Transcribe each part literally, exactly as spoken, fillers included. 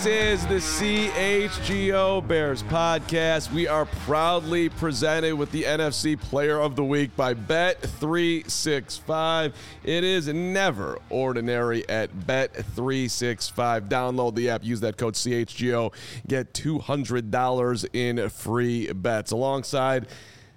is the C H G O Bears podcast. We are proudly presented with the N F C Player of the Week by Bet three sixty-five. It is never ordinary at Bet three sixty-five. Download the app, use that code C H G O, get two hundred dollars in free bets. Alongside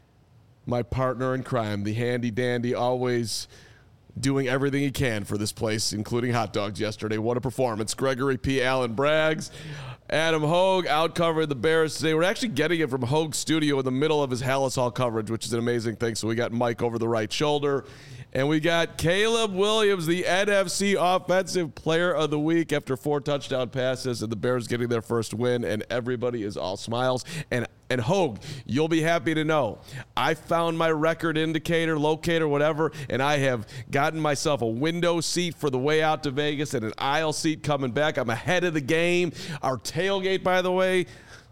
my partner in crime, the handy dandy, always doing everything he can for this place, including hot dogs yesterday. What a performance. Gregory P. Allen Braggs. Adam Hogue out-covered the Bears today. We're actually getting it from Hogue's studio in the middle of his Halas Hall coverage, which is an amazing thing. So we got Mike over the right shoulder. And we got Caleb Williams, the N F C Offensive Player of the Week after four touchdown passes and the Bears getting their first win, and everybody is all smiles. And and Hogue, you'll be happy to know, I found my record indicator, locator, whatever, and I have gotten myself a window seat for the way out to Vegas and an aisle seat coming back. I'm ahead of the game. Our tailgate, by the way,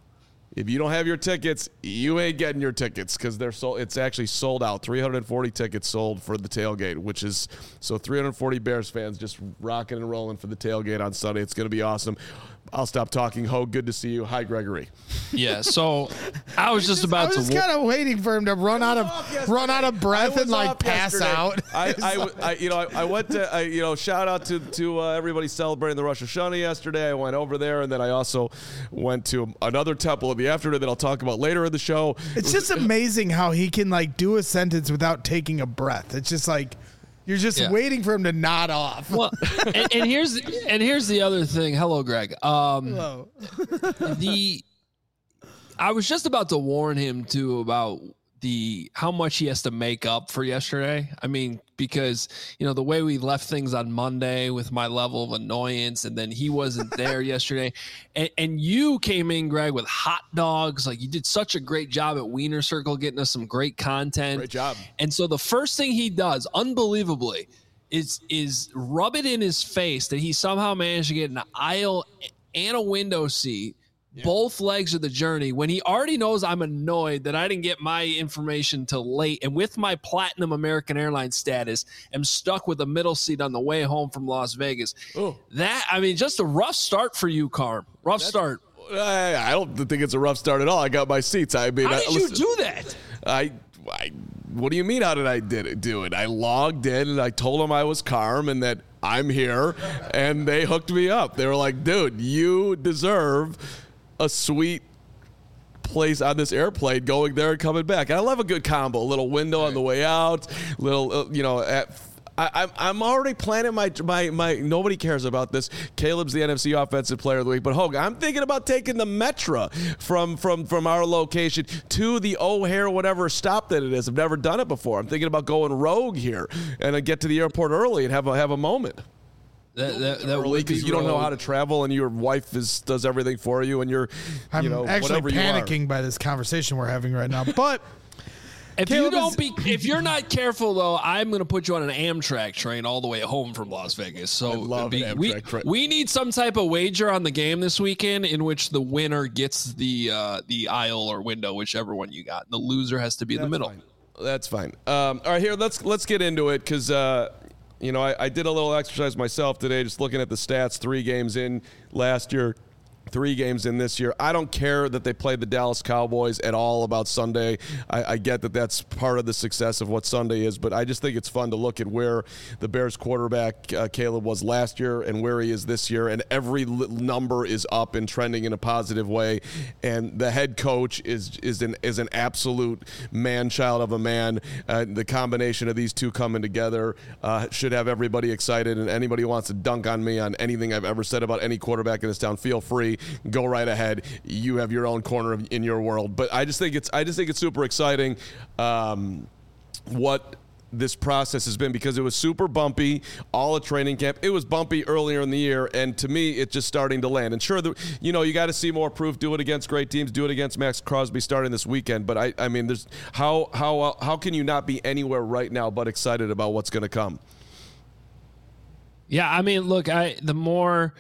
if you don't have your tickets, you ain't getting your tickets because they're sold. It's actually sold out. three hundred forty tickets sold for the tailgate, which is so three hundred forty Bears fans just rocking and rolling for the tailgate on Sunday. It's going to be awesome. I'll stop talking. Hogue, good to see you. Hi, Gregory. Yeah, so I was just about I was to. kind of waiting for him to run out of run out of breath and like pass yesterday. out. I, I, I, you know, I, I went to, I, you know, shout out to to uh, everybody celebrating the Rosh Hashanah yesterday. I went over there, and then I also went to another temple in the afternoon that I'll talk about later in the show. It's just amazing how he can like do a sentence without taking a breath. It's just like you're just Yeah. waiting for him to nod off. Well, and, and here's and here's the other thing. Hello, Greg. Um, Hello. the I was just about to warn him too about the how much he has to make up for yesterday. I mean, because you know the way we left things on Monday with my level of annoyance, and then he wasn't there yesterday, and, and you came in, Greg, with hot dogs. Like you did such a great job at Wiener Circle, getting us some great content. Great job. And so the first thing he does, unbelievably, is is rub it in his face that he somehow managed to get an aisle and a window seat. Yeah. Both legs of the journey when he already knows I'm annoyed that I didn't get my information till late, and with my platinum American Airlines status am stuck with a middle seat on the way home from Las Vegas. Oh. That I mean, just a rough start for you, Carm. Rough That's, start. I, I don't think it's a rough start at all. I got my seats. I mean, how I, did listen, you do that? I, I, what do you mean? How did I did it, do it? I logged in and I told them I was Carm and that I'm here, and they hooked me up. They were like, "Dude, you deserve a sweet place on this airplane going there and coming back." And I love a good combo, a little window on the way out, little, uh, you know, at, I, I'm I'm already planning my, my, my, nobody cares about this. Caleb's the N F C Offensive Player of the Week, but Hogue, I'm thinking about taking the Metra from, from, from our location to the O'Hare, whatever stop that it is. I've never done it before. I'm thinking about going rogue here and I get to the airport early and have a, have a moment. That, that, that Early because you don't know how to travel and your wife is does everything for you and you're, I'm you know, actually whatever you panicking by this conversation we're having right now. But if Caleb you don't is- be, if you're not careful though, I'm going to put you on an Amtrak train all the way home from Las Vegas. So I love be, an we Amtrak train. we need some type of wager on the game this weekend in which the winner gets the uh, the aisle or window, whichever one you got. And the loser has to be in the middle. Fine. That's fine. Um, all right, here let's let's get into it because. Uh, You know, I, I did a little exercise myself today, just looking at the stats. Three games in last year, three games in this year. I don't care that they played the Dallas Cowboys at all about Sunday. I, I get that that's part of the success of what Sunday is, but I just think it's fun to look at where the Bears quarterback, uh, Caleb, was last year and where he is this year, and every li- number is up and trending in a positive way. And the head coach is is an is an absolute man-child of a man. Uh, the combination of these two coming together uh, should have everybody excited, and anybody who wants to dunk on me on anything I've ever said about any quarterback in this town, feel free. Go right ahead. You have your own corner in your world. But I just think it's I just think it's super exciting um, what this process has been, because it was super bumpy all at training camp. It was bumpy earlier in the year, and to me, it's just starting to land. And sure, the, you know, you got to see more proof. Do it against great teams. Do it against Max Crosby starting this weekend. But I, I mean, there's how how how can you not be anywhere right now but excited about what's going to come? Yeah, I mean, look, I the more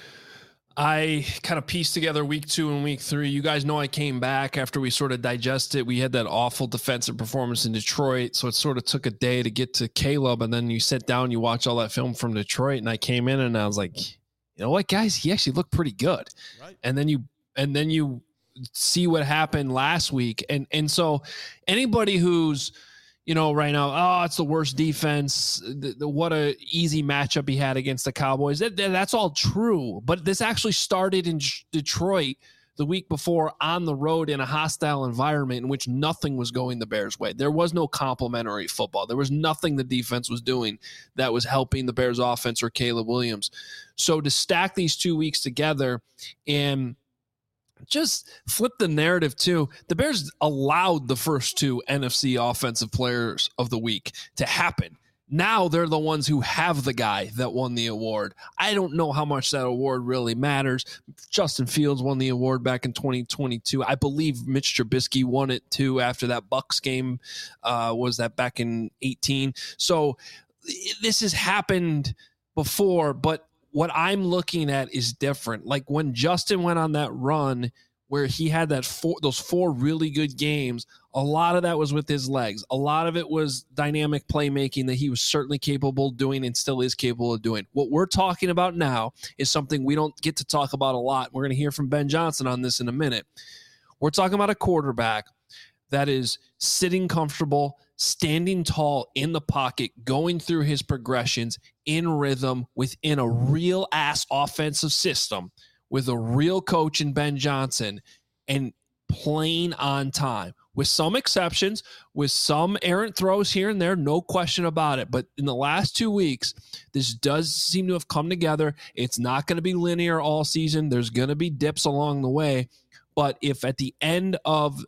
I kind of pieced together week two and week three. You guys know I came back after we sort of digested. We had that awful defensive performance in Detroit, so it sort of took a day to get to Caleb, and then you sit down, you watch all that film from Detroit, and I came in and I was like, you know what, guys, he actually looked pretty good. Right. And then you and then you see what happened last week. And and so anybody who's, you know, right now, oh, it's the worst defense. The, the, what a easy matchup he had against the Cowboys. That, that's all true. But this actually started in Detroit the week before on the road in a hostile environment in which nothing was going the Bears' way. There was no complimentary football. There was nothing the defense was doing that was helping the Bears' offense or Caleb Williams. So to stack these two weeks together and just flip the narrative too, the Bears allowed the first two N F C offensive players of the week to happen. Now they're the ones who have the guy that won the award. I don't know how much that award really matters. Justin Fields won the award back in twenty twenty-two. I believe Mitch Trubisky won it too after that Bucs game. Uh, was that back in eighteen? So this has happened before, but what I'm looking at is different. Like when Justin went on that run where he had that four, those four really good games, a lot of that was with his legs. A lot of it was dynamic playmaking that he was certainly capable of doing and still is capable of doing. What we're talking about now is something we don't get to talk about a lot. We're going to hear from Ben Johnson on this in a minute. We're talking about a quarterback that is sitting comfortable, standing tall in the pocket, going through his progressions in rhythm within a real ass offensive system with a real coach in Ben Johnson and playing on time with some exceptions, with some errant throws here and there, no question about it. But in the last two weeks, this does seem to have come together. It's not going to be linear all season. There's going to be dips along the way. But if at the end of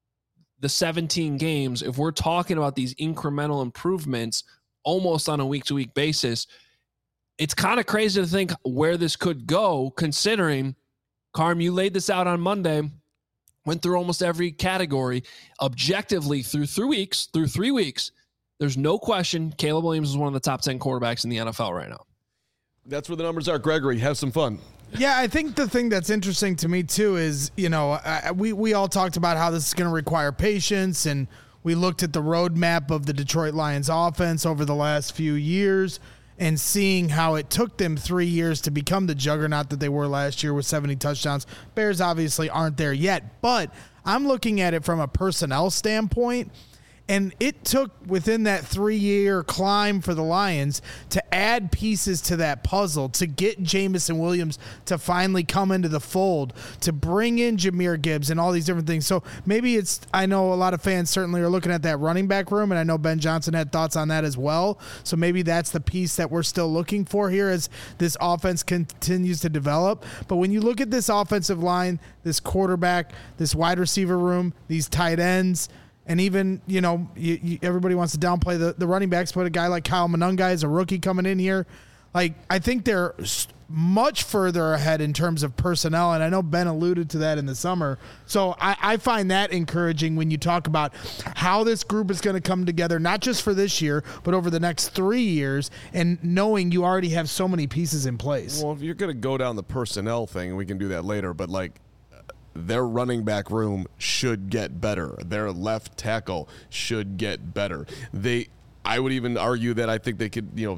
the seventeen games, if we're talking about these incremental improvements almost on a week-to-week basis, it's kind of crazy to think where this could go, considering, Carm, you laid this out on Monday, went through almost every category objectively through three weeks, through three weeks. There's no question Caleb Williams is one of the top ten quarterbacks in the N F L right now. That's where the numbers are. Gregory, have some fun. Yeah, I think the thing that's interesting to me too is, you know, I, we, we all talked about how this is going to require patience, and we looked at the roadmap of the Detroit Lions offense over the last few years and seeing how it took them three years to become the juggernaut that they were last year with seventy touchdowns. Bears obviously aren't there yet, but I'm looking at it from a personnel standpoint. And it took within that three-year climb for the Lions to add pieces to that puzzle, to get Jameson Williams to finally come into the fold, to bring in Jahmyr Gibbs and all these different things. So maybe it's, I know a lot of fans certainly are looking at that running back room, and I know Ben Johnson had thoughts on that as well. So maybe that's the piece that we're still looking for here as this offense continues to develop. But when you look at this offensive line, this quarterback, this wide receiver room, these tight ends, and even, you know, you, you, everybody wants to downplay the, the running backs, but a guy like Kyle Monunga is a rookie coming in here. Like, I think they're much further ahead in terms of personnel, and I know Ben alluded to that in the summer. So I, I find that encouraging when you talk about how this group is going to come together, not just for this year, but over the next three years, and knowing you already have so many pieces in place. Well, if you're going to go down the personnel thing, we can do that later, but, like, their running back room should get better. Their left tackle should get better. They, I would even argue that I think they could, you know,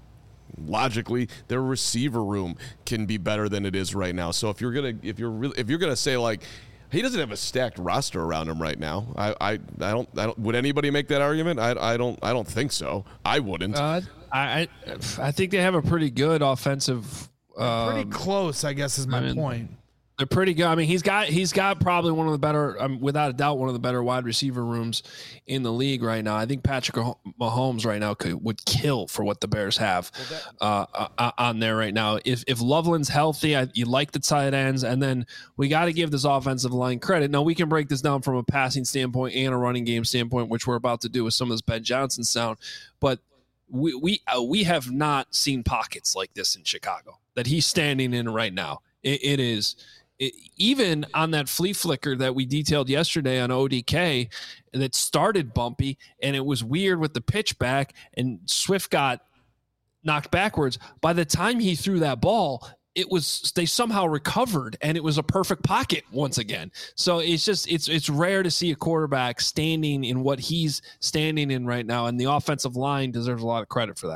logically, their receiver room can be better than it is right now. So if you're gonna, if you're really, if you're gonna say like, he doesn't have a stacked roster around him right now, I, I, I don't, I don't. Would anybody make that argument? I, I don't, I don't think so. I wouldn't. Uh, I, I think they have a pretty good offensive. Uh, pretty close, I guess, is my I mean, point. They're pretty good. I mean, he's got he's got probably one of the better, um, without a doubt, one of the better wide receiver rooms in the league right now. I think Patrick Mahomes right now could would kill for what the Bears have uh, uh, on there right now. If if Loveland's healthy, I, you like the tight ends, and then we got to give this offensive line credit. Now we can break this down from a passing standpoint and a running game standpoint, which we're about to do with some of this Ben Johnson sound, but we we uh, we have not seen pockets like this in Chicago that he's standing in right now. It, it is. It, even on that flea flicker that we detailed yesterday on O D K that started bumpy and it was weird with the pitch back and Swift got knocked backwards. By the time he threw that ball, it was, they somehow recovered and it was a perfect pocket once again. So it's just, it's, it's rare to see a quarterback standing in what he's standing in right now. And the offensive line deserves a lot of credit for that.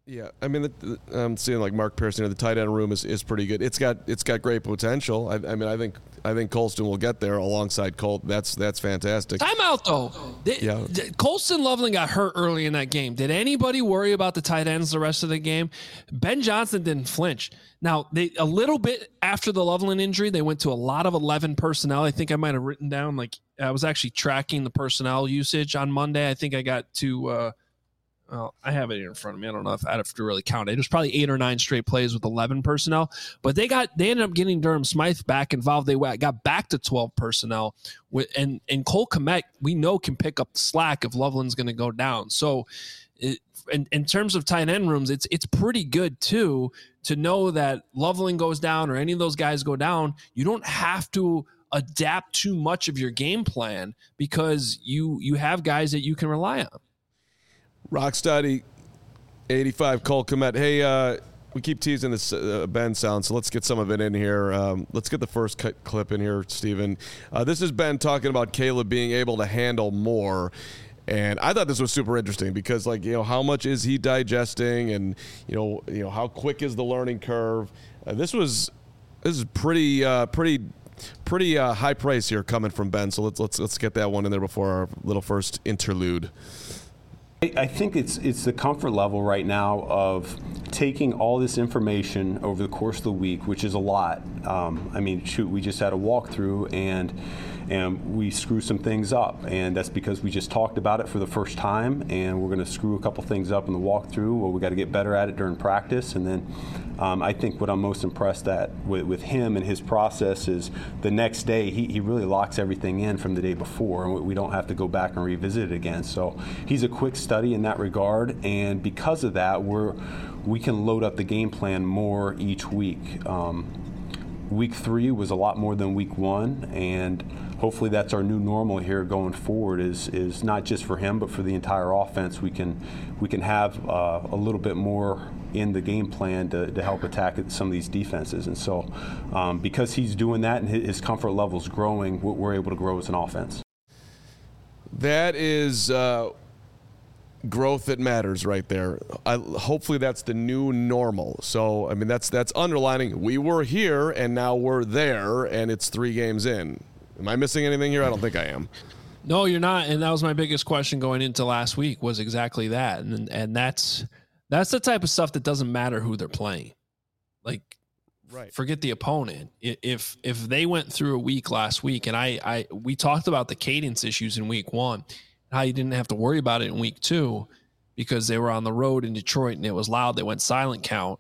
Yeah, I mean, the, the, I'm seeing like Mark Pearson. You know, the tight end room is, is pretty good. It's got it's got great potential. I, I mean, I think I think Colston will get there alongside Colt. That's that's fantastic. Timeout though. They, yeah, Colston Loveland got hurt early in that game. Did anybody worry about the tight ends the rest of the game? Ben Johnson didn't flinch. Now they a little bit after the Loveland injury, they went to a lot of eleven personnel. I think I might have written down like I was actually tracking the personnel usage on Monday. I think I got to. Uh, Well, I have it here in front of me. I don't know if I have to really count it. It was probably eight or nine straight plays with eleven personnel, but they got they ended up getting Durham Smythe back involved. They got back to twelve personnel, with and and Cole Kmet we know can pick up the slack if Loveland's going to go down. So, it, in in terms of tight end rooms, it's it's pretty good too to know that Loveland goes down or any of those guys go down. You don't have to adapt too much of your game plan because you you have guys that you can rely on. Rocksteady, eighty-five, Cole Kmet. Hey, uh, we keep teasing this uh, Ben sound, so let's get some of it in here. Um, let's get the first cut clip in here, Steven. Uh, this is Ben talking about Caleb being able to handle more. And I thought this was super interesting because, like, you know, how much is he digesting, and you know, you know, how quick is the learning curve? Uh, this was this is pretty, uh, pretty, pretty uh, high praise here coming from Ben. So let's let's let's get that one in there before our little first interlude. I think it's it's the comfort level right now of taking all this information over the course of the week, which is a lot. Um, I mean, shoot, we just had a walkthrough and and we screw some things up, and that's because we just talked about it for the first time, and we're going to screw a couple things up in the walkthrough. Well, we got to get better at it during practice, and then um, I think what I'm most impressed at with, with him and his process is the next day he, he really locks everything in from the day before, and we don't have to go back and revisit it again. So he's a quick study in that regard, and because of that, we're we can load up the game plan more each week. Um, week three was a lot more than week one, and hopefully that's our new normal here going forward. Is is not just for him, but for the entire offense. We can we can have uh, a little bit more in the game plan to, to help attack some of these defenses. And so, um, because he's doing that and his comfort level is growing, we're able to grow as an offense. That is uh, growth that matters right there. I, hopefully that's the new normal. So, I mean, that's that's underlining we were here and now we're there, and it's three games in. Am I missing anything here? I don't think I am. No, you're not. And that was my biggest question going into last week was exactly that. And and that's that's the type of stuff that doesn't matter who they're playing. Like, right. Forget the opponent. If if they went through a week last week, and I, I we talked about the cadence issues in week one, how you didn't have to worry about it in week two because they were on the road in Detroit and it was loud. They went silent count.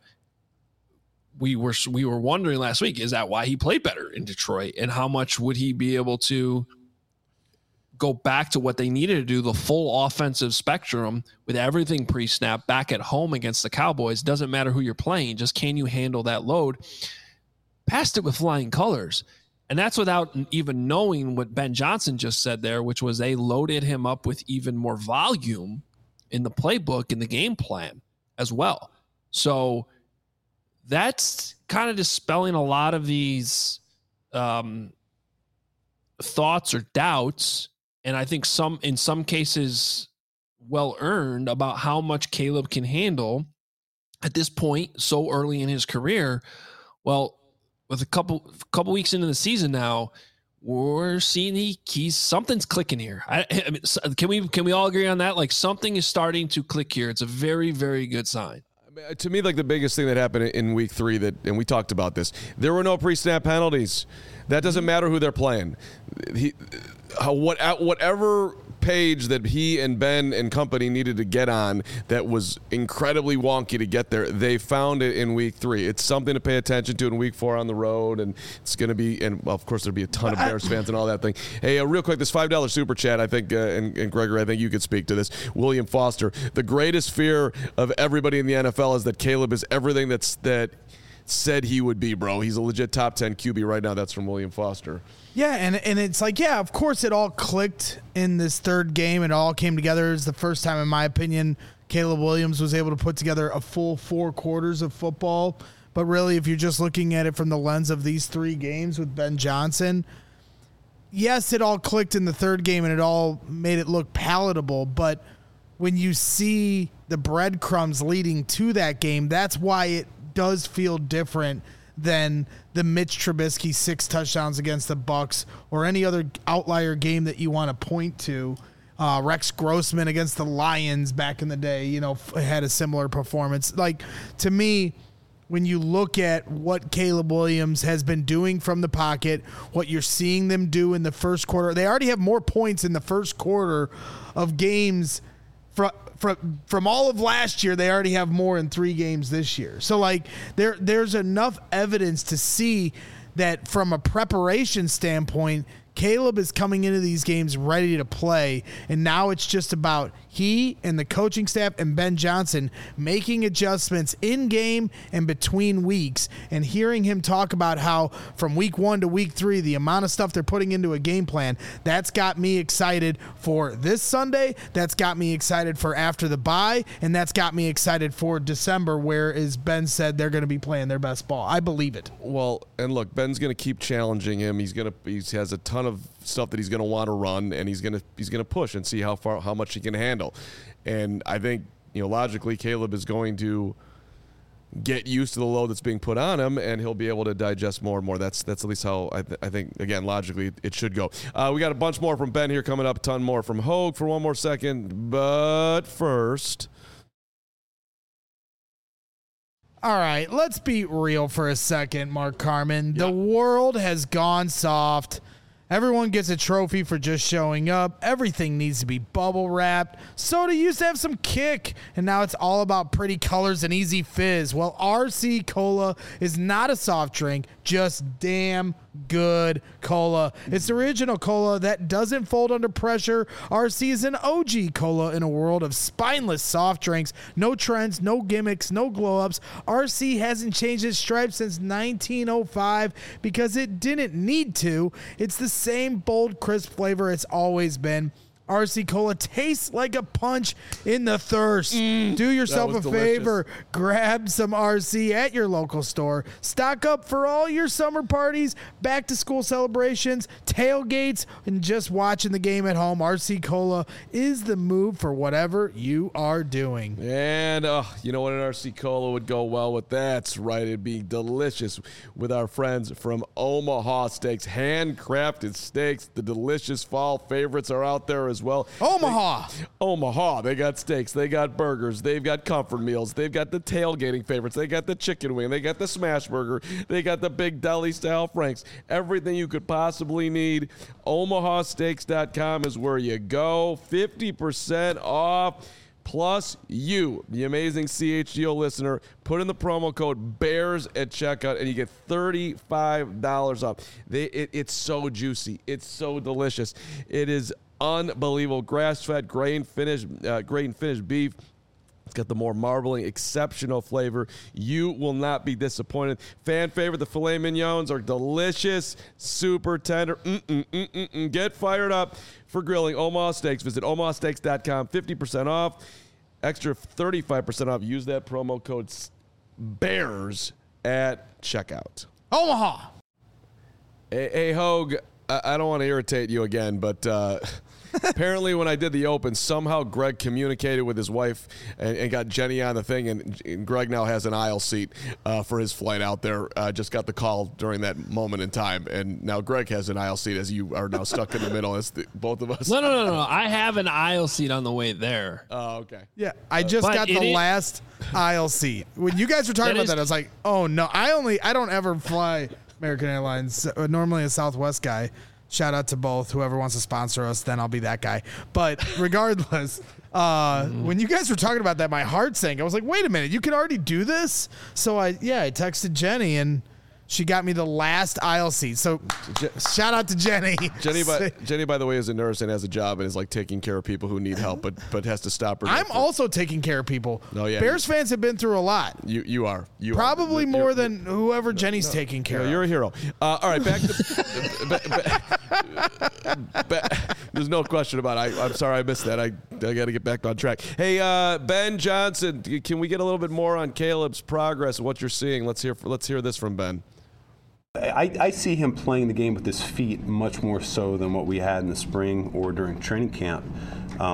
We were we were wondering last week, is that why he played better in Detroit, and how much would he be able to go back to what they needed to do, the full offensive spectrum with everything pre-snap back at home against the Cowboys? Doesn't matter who you're playing, just can you handle that load? Passed it with flying colors. And that's without even knowing what Ben Johnson just said there, which was they loaded him up with even more volume in the playbook, in the game plan as well. So that's kind of dispelling a lot of these um, thoughts or doubts, and I think some, in some cases, well earned, about how much Caleb can handle at this point so early in his career. Well, with a couple couple weeks into the season now, we're seeing he he's something's clicking here. I, I mean, can we can we all agree on that? Like, something is starting to click here. It's a very, very good sign. To me, like, the biggest thing that happened in week three, that, and we talked about this, there were no pre-snap penalties. That doesn't matter who they're playing. He, what, whatever page that he and Ben and company needed to get on that was incredibly wonky to get there, they found it in week three. It's something to pay attention to in week four on the road, and it's going to be, and well, of course there'll be a ton of Bears fans and all that thing. Hey, uh, real quick, this five dollar super chat, I think, uh, and, and Gregory, I think you could speak to this. William Foster, the greatest fear of everybody in the N F L is that Caleb is everything that's that said he would be, bro. He's a legit top ten Q B right now. That's from William Foster. Yeah, and, and it's like, yeah, of course it all clicked in this third game. It all came together. It's the first time, in my opinion, Caleb Williams was able to put together a full four quarters of football. But really, if you're just looking at it from the lens of these three games with Ben Johnson, yes, it all clicked in the third game and it all made it look palatable. But when you see the breadcrumbs leading to that game, that's why it does feel different than the Mitch Trubisky six touchdowns against the Bucs or any other outlier game that you want to point to. Uh, Rex Grossman against the Lions back in the day, you know, f- had a similar performance. Like, to me, when you look at what Caleb Williams has been doing from the pocket, what you're seeing them do in the first quarter, they already have more points in the first quarter of games from from from all of last year. They already have more in three games this year. So like there there's enough evidence to see that from a preparation standpoint, Caleb is coming into these games ready to play, and now it's just about he and the coaching staff and Ben Johnson making adjustments in game and between weeks, and hearing him talk about how from week one to week three, the amount of stuff they're putting into a game plan, that's got me excited for this Sunday. That's got me excited for after the bye, and that's got me excited for December, where, as Ben said, they're going to be playing their best ball. I believe it. Well, and look, Ben's going to keep challenging him. He's going to he has a ton of stuff that he's going to want to run, and he's going to he's going to push and see how far how much he can handle. And I think, you know, logically, Caleb is going to get used to the load that's being put on him, and he'll be able to digest more and more. That's that's at least how I, th- I think, again, logically, it should go. Uh, we got a bunch more from Ben here coming up, a ton more from Hogue for one more second. But first, all right, let's be real for a second, Mark Carman. The yeah. world has gone soft. Everyone gets a trophy for just showing up. Everything needs to be bubble wrapped. Soda used to have some kick, and now it's all about pretty colors and easy fizz. Well, R C Cola is not a soft drink, just damn good cola. It's the original cola that doesn't fold under pressure. R C is an O G cola in a world of spineless soft drinks. No trends, no gimmicks, no glow-ups. R C hasn't changed its stripes since nineteen oh five because it didn't need to. It's the same bold, crisp flavor it's always been. R C Cola tastes like a punch in the thirst. Mm, Do yourself a delicious. favor. Grab some R C at your local store. Stock up for all your summer parties, back to school celebrations, tailgates, and just watching the game at home. R C Cola is the move for whatever you are doing. And uh, you know what, an R C Cola would go well with that? That's right. It'd be delicious with our friends from Omaha Steaks. Handcrafted steaks. The delicious fall favorites are out there as well. Omaha. They, Omaha. They got steaks. They got burgers. They've got comfort meals. They've got the tailgating favorites. They got the chicken wing. They got the smash burger. They got the big deli style franks. Everything you could possibly need. Omaha Steaks dot com is where you go. fifty percent off. Plus you, the amazing C H G O listener, put in the promo code BEARS at checkout and you get thirty-five dollars off. They, it, it's so juicy. It's so delicious. It is unbelievable. Grass-fed, grain-finished, uh, grain-finished beef. It's got the more marbling, exceptional flavor. You will not be disappointed. Fan favorite, the filet mignons are delicious, super tender. Mm-mm, mm-mm, mm. Get fired up for grilling Omaha Steaks. Visit Omaha Steaks dot com, fifty percent off. Extra thirty-five percent off. Use that promo code BEARS at checkout. Omaha! Hey, hey Hogue, I, I don't want to irritate you again, but... Uh, apparently, when I did the Open, somehow Greg communicated with his wife and, and got Jenny on the thing, and, and Greg now has an aisle seat uh, for his flight out there. Uh, just got the call during that moment in time, and now Greg has an aisle seat as you are now stuck in the middle as the, both of us. No, no, no, no. I have an aisle seat on the way there. Oh, okay. Yeah, I just got the is, last aisle seat. When you guys were talking that about is, that, I was like, oh, no. I only, I don't ever fly American Airlines. Normally a Southwest guy. Shout out to both. Whoever wants to sponsor us, then I'll be that guy. But regardless, uh, mm-hmm. when you guys were talking about that, my heart sank. I was like, wait a minute, you can already do this? So, I yeah, I texted Jenny, and she got me the last aisle seat. So Je- shout out to Jenny. Jenny by, Jenny, by the way, is a nurse and has a job and is like taking care of people who need help, but but has to stop her. I'm for, also taking care of people. Oh, yeah, Bears you, fans have been through a lot. You you are. You Probably are. more you're, than whoever no, Jenny's no, taking care no, of. You're a hero. Uh, all right, back to... back, back, there's no question about it. I, I'm sorry I missed that. I, I got to get back on track. Hey, uh, Ben Johnson, can we get a little bit more on Caleb's progress and what you're seeing? Let's hear Let's hear this from Ben. I, I see him playing the game with his feet much more so than what we had in the spring or during training camp. Um,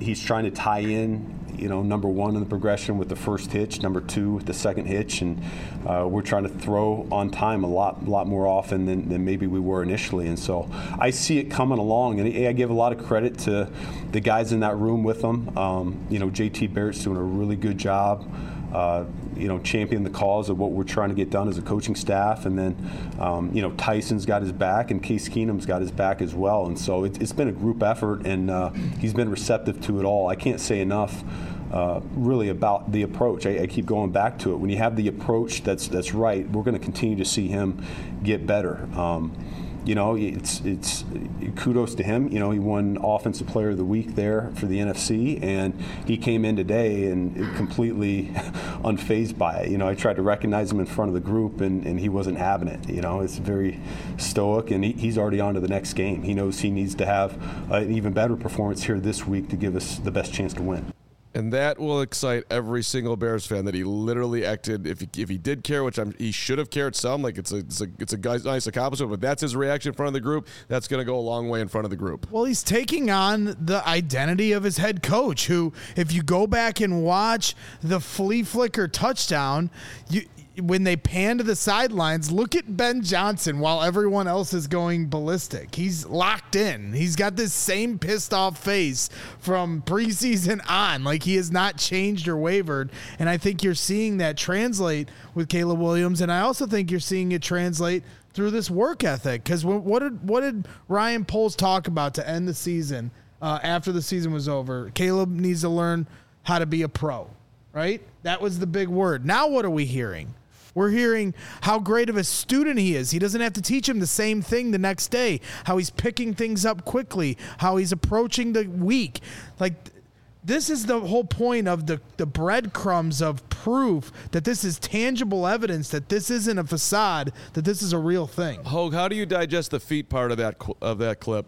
he's trying to tie in, you know, number one in the progression with the first hitch, number two with the second hitch, and uh, we're trying to throw on time a lot, lot more often than, than maybe we were initially. And so I see it coming along, and I give a lot of credit to the guys in that room with them. Um, you know, J T Barrett's doing a really good job. Uh, you know, champion the cause of what we're trying to get done as a coaching staff. And then, um, you know, Tyson's got his back and Case Keenum's got his back as well. And so it, it's been a group effort, and uh, he's been receptive to it all. I can't say enough uh, really about the approach. I, I keep going back to it. When you have the approach that's that's right, we're going to continue to see him get better. Um, You know, it's it's kudos to him. You know, he won Offensive Player of the Week there for the N F C, and he came in today and completely unfazed by it. You know, I tried to recognize him in front of the group, and, and he wasn't having it. You know, it's very stoic, and he, he's already on to the next game. He knows he needs to have an even better performance here this week to give us the best chance to win. And that will excite every single Bears fan that he literally acted. If he, if he did care, which I'm, he should have cared some, like it's a it's a, it's a guy's nice accomplishment, but that's his reaction in front of the group. That's going to go a long way in front of the group. Well, he's taking on the identity of his head coach, who, if you go back and watch the flea flicker touchdown, you. When they pan to the sidelines, look at Ben Johnson while everyone else is going ballistic. He's locked in. He's got this same pissed off face from preseason on. Like, he has not changed or wavered. And I think you're seeing that translate with Caleb Williams. And I also think you're seeing it translate through this work ethic. Because what did, what did Ryan Poles talk about to end the season uh, after the season was over? Caleb needs to learn how to be a pro, right? That was the big word. Now what are we hearing? We're hearing how great of a student he is. He doesn't have to teach him the same thing the next day, how he's picking things up quickly, how he's approaching the week. Like, this is the whole point of the, the breadcrumbs of proof that this is tangible evidence, that this isn't a facade, that this is a real thing. Hogue, how do you digest the feet part of that of that clip?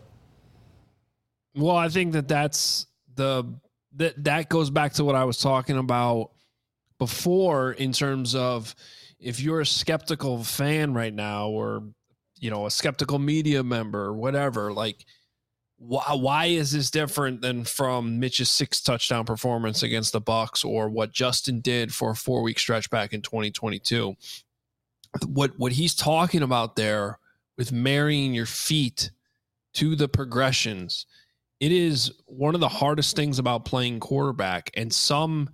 Well, I think that that's the that that goes back to what I was talking about before in terms of, if you're a skeptical fan right now, or, you know, a skeptical media member or whatever, like, why, why is this different than from Mitch's six touchdown performance against the Bucs, or what Justin did for a four week stretch back in twenty twenty-two? What, what he's talking about there with marrying your feet to the progressions, it is one of the hardest things about playing quarterback. And some,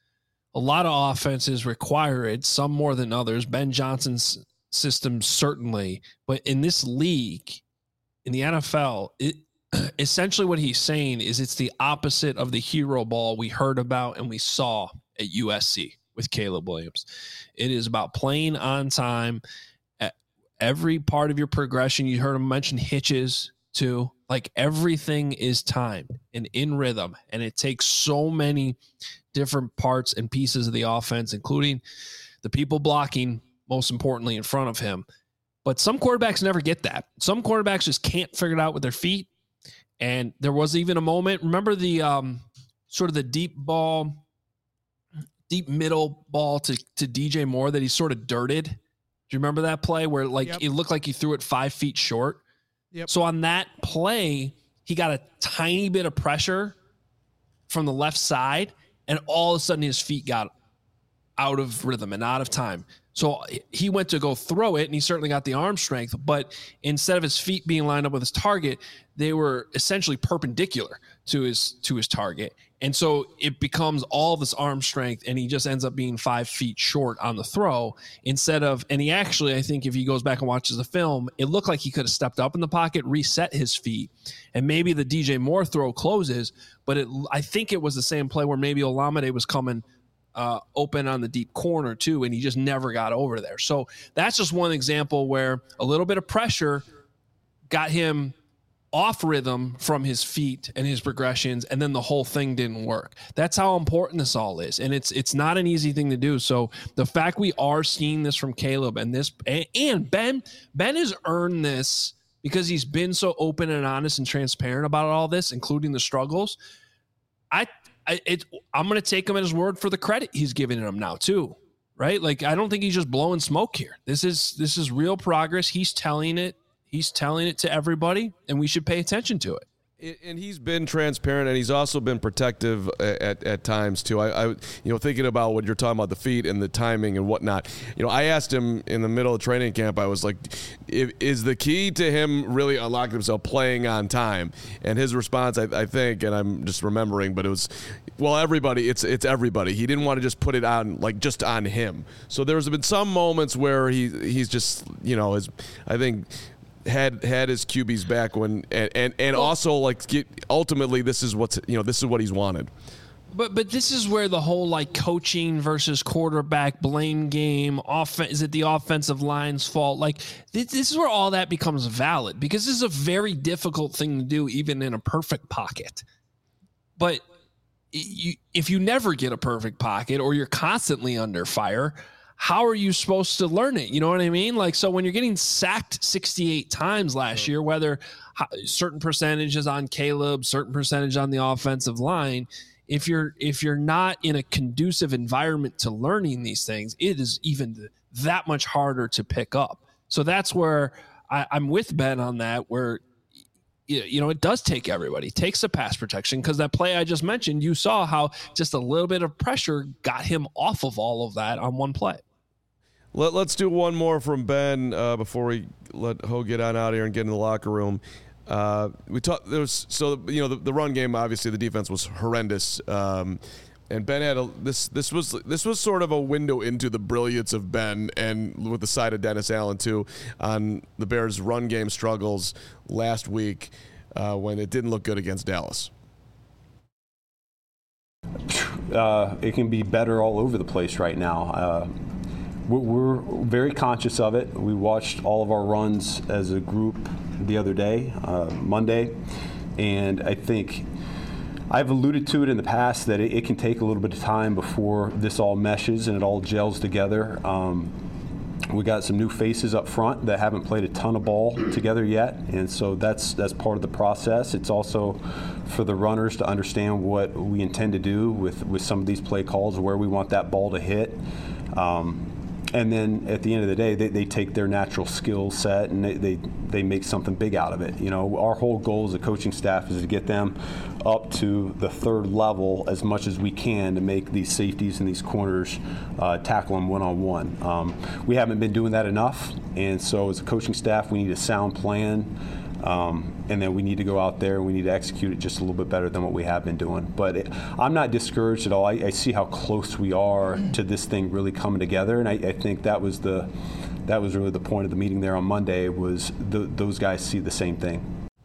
a lot of offenses require it, some more than others. Ben Johnson's system, certainly. But in this league, in the N F L, it essentially what he's saying is it's the opposite of the hero ball we heard about and we saw at U S C with Caleb Williams. It is about playing on time at every part of your progression. You heard him mention hitches too. Like, everything is timed and in rhythm, and it takes so many different parts and pieces of the offense, including the people blocking, most importantly, in front of him. But some quarterbacks never get that. Some quarterbacks just can't figure it out with their feet. And there was even a moment, remember the um, sort of the deep ball, deep middle ball to, to D J Moore that he sort of dirted? Do you remember that play where, like, yep, it looked like he threw it five feet short? Yep. So on that play, he got a tiny bit of pressure from the left side, and all of a sudden his feet got out of rhythm and out of time. So he went to go throw it, and he certainly got the arm strength, but instead of his feet being lined up with his target, they were essentially perpendicular to his to his target. And so it becomes all this arm strength, and he just ends up being five feet short on the throw instead of, and he actually, I think if he goes back and watches the film, it looked like he could have stepped up in the pocket, reset his feet, and maybe the D J Moore throw closes, but it, I think it was the same play where maybe Olamide was coming uh, open on the deep corner too, and he just never got over there. So that's just one example where a little bit of pressure got him off rhythm from his feet and his progressions, and then the whole thing didn't work. That's how important this all is, and it's it's not an easy thing to do. So the fact we are seeing this from Caleb, and this and, and Ben Ben has earned this because he's been so open and honest and transparent about all this, including the struggles. I, I it I'm going to take him at his word for the credit he's giving him now too, right? Like, I don't think he's just blowing smoke here. This is this is real progress. He's telling it. He's telling it to everybody, and we should pay attention to it. And he's been transparent, and he's also been protective at, at times too. I, I, you know, thinking about what you're talking about, the feet and the timing and whatnot. You know, I asked him in the middle of training camp. I was like, if, "Is the key to him really unlocking himself playing on time?" And his response, I, I think, and I'm just remembering, but it was, "Well, everybody. It's it's everybody." He didn't want to just put it on like just on him. So there's been some moments where he he's just, you know, his, I think. had had his Q B's back when and and, and also like get, ultimately this is what's you know this is what he's wanted. But but this is where the whole like coaching versus quarterback blame game off is it the offensive line's fault? Like this, this is where all that becomes valid, because this is a very difficult thing to do even in a perfect pocket. But you, if you never get a perfect pocket or you're constantly under fire, how are you supposed to learn it? You know what I mean? Like, so when you're getting sacked sixty-eight times last year, whether certain percentages on Caleb, certain percentage on the offensive line, if you're, if you're not in a conducive environment to learning these things, it is even that much harder to pick up. So that's where I, I'm with Ben on that, where, you know, it does take everybody. It takes the pass protection, because that play I just mentioned, you saw how just a little bit of pressure got him off of all of that on one play. Let, let's do one more from Ben uh, before we let Ho get on out of here and get in the locker room. Uh, we talked. There was so you know the, the run game. Obviously, the defense was horrendous, um, and Ben had a, this. This was this was sort of a window into the brilliance of Ben, and with the side of Dennis Allen too, on the Bears' run game struggles last week uh, when it didn't look good against Dallas. Uh, it can be better all over the place right now. Uh, We're very conscious of it. We watched all of our runs as a group the other day, uh, Monday, and I think I've alluded to it in the past that it, it can take a little bit of time before this all meshes and it all gels together. Um, we got some new faces up front that haven't played a ton of ball together yet, and so that's that's part of the process. It's also for the runners to understand what we intend to do with, with some of these play calls, where we want that ball to hit. Um, And then at the end of the day, they, they take their natural skill set and they, they, they make something big out of it. You know, our whole goal as a coaching staff is to get them up to the third level as much as we can to make these safeties and these corners uh, tackle them one-on-one. Um, we haven't been doing that enough, and so as a coaching staff, we need a sound plan. Um, and then we need to go out there and we need to execute it just a little bit better than what we have been doing. But it, I'm not discouraged at all. I, I see how close we are to this thing really coming together, and I, I think that was the that was really the point of the meeting there on Monday, was the, those guys see the same thing.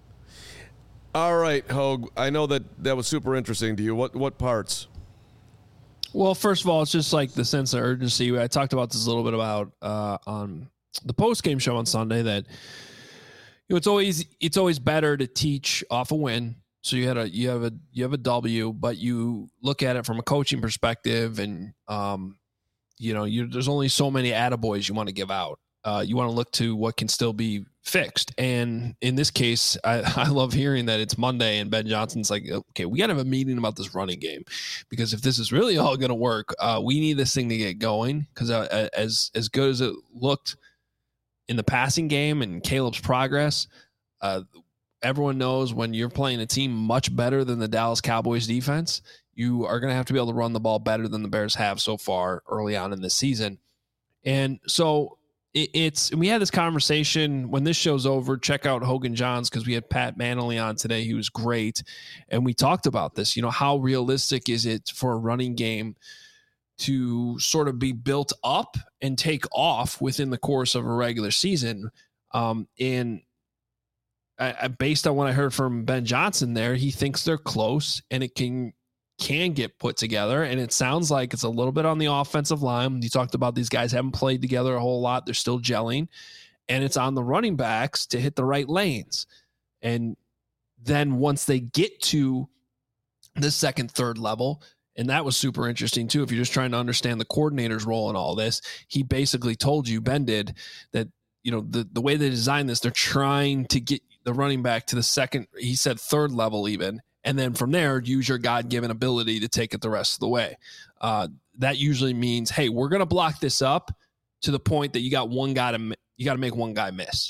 All right, Hogue, I know that that was super interesting to you. What what parts? Well, first of all, it's just like the sense of urgency. I talked about this a little bit about uh, on the post-game show on Sunday, that you know, it's always it's always better to teach off a win. So you had a you have a you have a W, but you look at it from a coaching perspective, and um, you know, you there's only so many attaboys you want to give out. Uh, you want to look to what can still be fixed. And in this case, I, I love hearing that it's Monday and Ben Johnson's like, okay, we got to have a meeting about this running game, because if this is really all going to work, uh, we need this thing to get going. Because uh, as as good as it looked in the passing game and Caleb's progress, uh, everyone knows when you're playing a team much better than the Dallas Cowboys defense, you are going to have to be able to run the ball better than the Bears have so far early on in the season. And so it, it's, and we had this conversation when this show's over. Check out Hogan Johns, because we had Pat Manley on today. He was great. And we talked about this, you know, how realistic is it for a running game to sort of be built up and take off within the course of a regular season. Um, and I, I, based on what I heard from Ben Johnson there, he thinks they're close and it can, can get put together. And it sounds like it's a little bit on the offensive line. You talked about these guys haven't played together a whole lot. They're still gelling, and it's on the running backs to hit the right lanes. And then once they get to the second, third level, and that was super interesting too, if you're just trying to understand the coordinator's role in all this, he basically told you, Ben did, that, you know, the, the way they designed this, they're trying to get the running back to the second, he said third level even, and then from there, use your God-given ability to take it the rest of the way. Uh, that usually means, hey, we're going to block this up to the point that you got one guy to, you got to make one guy miss.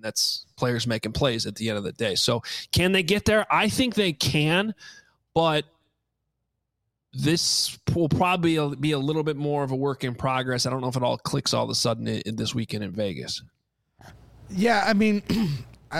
That's players making plays at the end of the day. So can they get there? I think they can, but this will probably be a little bit more of a work in progress. I don't know if it all clicks all of a sudden in, in this weekend in Vegas. Yeah, I mean, I,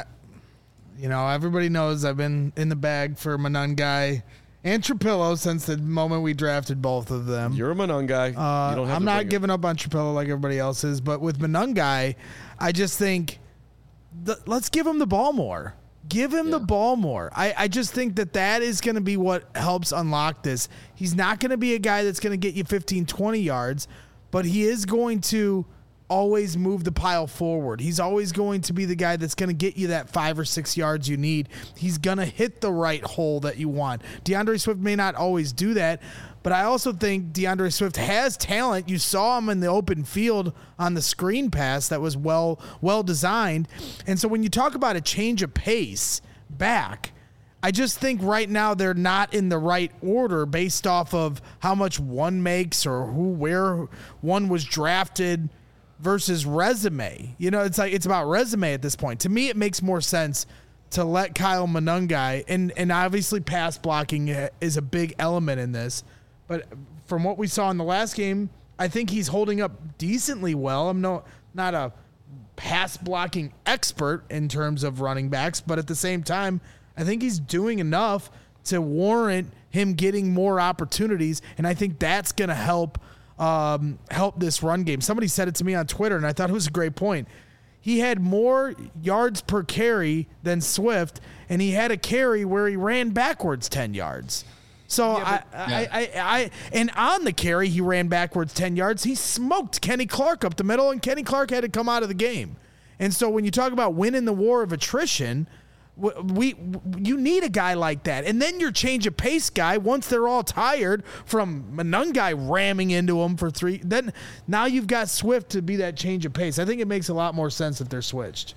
you know, everybody knows I've been in the bag for Monangai and Trapillo since the moment we drafted both of them. You're a Monangai. Uh, you don't have I'm to not bring giving up on Trapillo like everybody else is, but with Monangai, I just think the, let's give him the ball more. Give him Yeah. the ball more. I, I just think that that is going to be what helps unlock this. He's not going to be a guy that's going to get you fifteen, twenty yards, but he is going to always move the pile forward. He's always going to be the guy that's going to get you that five or six yards you need. He's going to hit the right hole that you want. DeAndre Swift may not always do that, but I also think DeAndre Swift has talent. You saw him in the open field on the screen pass that was well well designed. And so when you talk about a change of pace back, I just think right now they're not in the right order based off of how much one makes or who where one was drafted versus resume. You know, it's like it's about resume at this point. To me, it makes more sense to let Kyle Monangai, and and obviously pass blocking is a big element in this. But from what we saw in the last game, I think he's holding up decently well. I'm no not a pass blocking expert in terms of running backs, but at the same time, I think he's doing enough to warrant him getting more opportunities, and I think that's going to help um, help this run game. Somebody said it to me on Twitter, and I thought it was a great point. He had more yards per carry than Swift, and he had a carry where he ran backwards ten yards. So Yeah, I, but- I, I, I, I, and on the carry, he ran backwards ten yards. He smoked Kenny Clark up the middle, and Kenny Clark had to come out of the game. And so when you talk about winning the war of attrition, we, we you need a guy like that. And then your change of pace guy, once they're all tired from Monangai ramming into them for three, then now you've got Swift to be that change of pace. I think it makes a lot more sense if they're switched.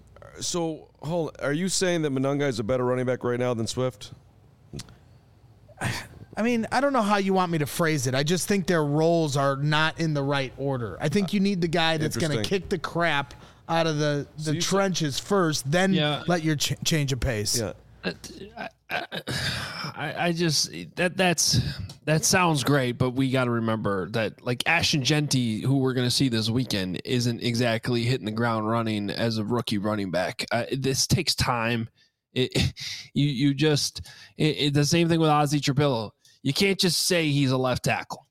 So, hold. Are you saying that Monangai is a better running back right now than Swift? I mean, I don't know how you want me to phrase it. I just think their roles are not in the right order. I think you need the guy that's going to Interesting. kick the crap out of the, the you- trenches first, then Yeah. let your ch- change of pace. Yeah. I, I just that that's that sounds great, but we got to remember that like Ashton Genty, who we're going to see this weekend, isn't exactly hitting the ground running as a rookie running back. Uh, this takes time. It, you you just it, it, the same thing with Ozzie Trapillo. You can't just say he's a left tackle.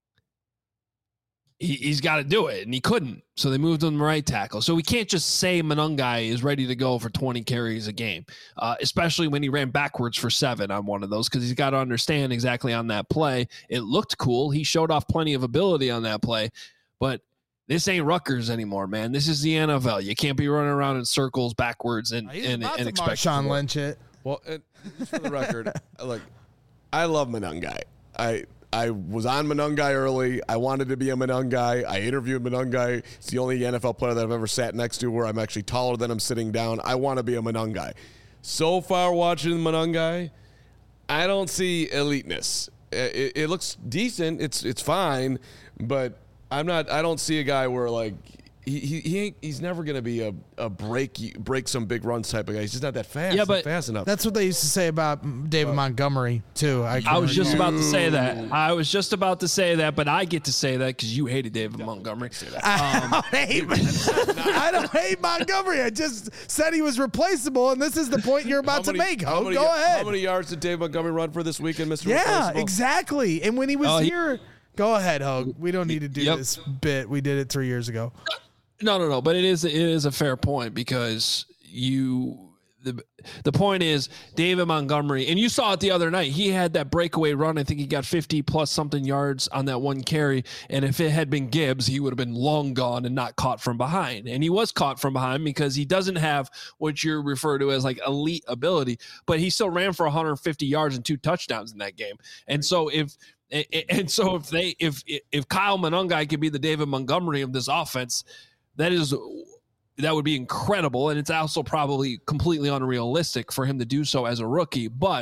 He, he's got to do it, and he couldn't. So they moved him to right tackle. So we can't just say Monangai is ready to go for twenty carries a game, uh, especially when he ran backwards for seven on one of those, because he's got to understand exactly on that play. It looked cool. He showed off plenty of ability on that play, but this ain't Rutgers anymore, man. This is the N F L. You can't be running around in circles backwards and, He's and, about and to expect Marshawn more. Lynch it. Well, and just for the record, look, I love Monangai. I I was on Monangai early. I wanted to be a Monangai. I interviewed Monangai. It's the only N F L player that I've ever sat next to where I'm actually taller than him sitting down. I want to be a Monangai. So far, watching Monangai, I don't see eliteness. It, it looks decent. It's it's fine, but I'm not. I don't see a guy where like. He, he he ain't he's never gonna be a, a break break some big runs type of guy. He's just not that fast. Yeah, not but fast enough. That's what they used to say about David Montgomery, too. I, I was just about to say that. I was just about to say that, but I get to say that because you hated David Montgomery. I don't hate I don't hate Montgomery. I just said he was replaceable, and this is the point you're about How many- to make. how Ho, many- go ahead. How many yards did Dave Montgomery run for this weekend, Mister Yeah, Replaceable? exactly. And when he was Oh, he- here, go ahead, Hogue. We don't need to do Yep. this bit. We did it three years ago. No, no, no. But it is it is a fair point because you the the point is David Montgomery, and you saw it the other night. He had that breakaway run. I think he got fifty plus something yards on that one carry. And if it had been Gibbs, he would have been long gone and not caught from behind. And he was caught from behind because he doesn't have what you refer to as like elite ability, but he still ran for one hundred fifty yards and two touchdowns in that game. And so if and so if they if if Kyle Monangai could be the David Montgomery of this offense, that is that would be incredible, and it's also probably completely unrealistic for him to do so as a rookie. But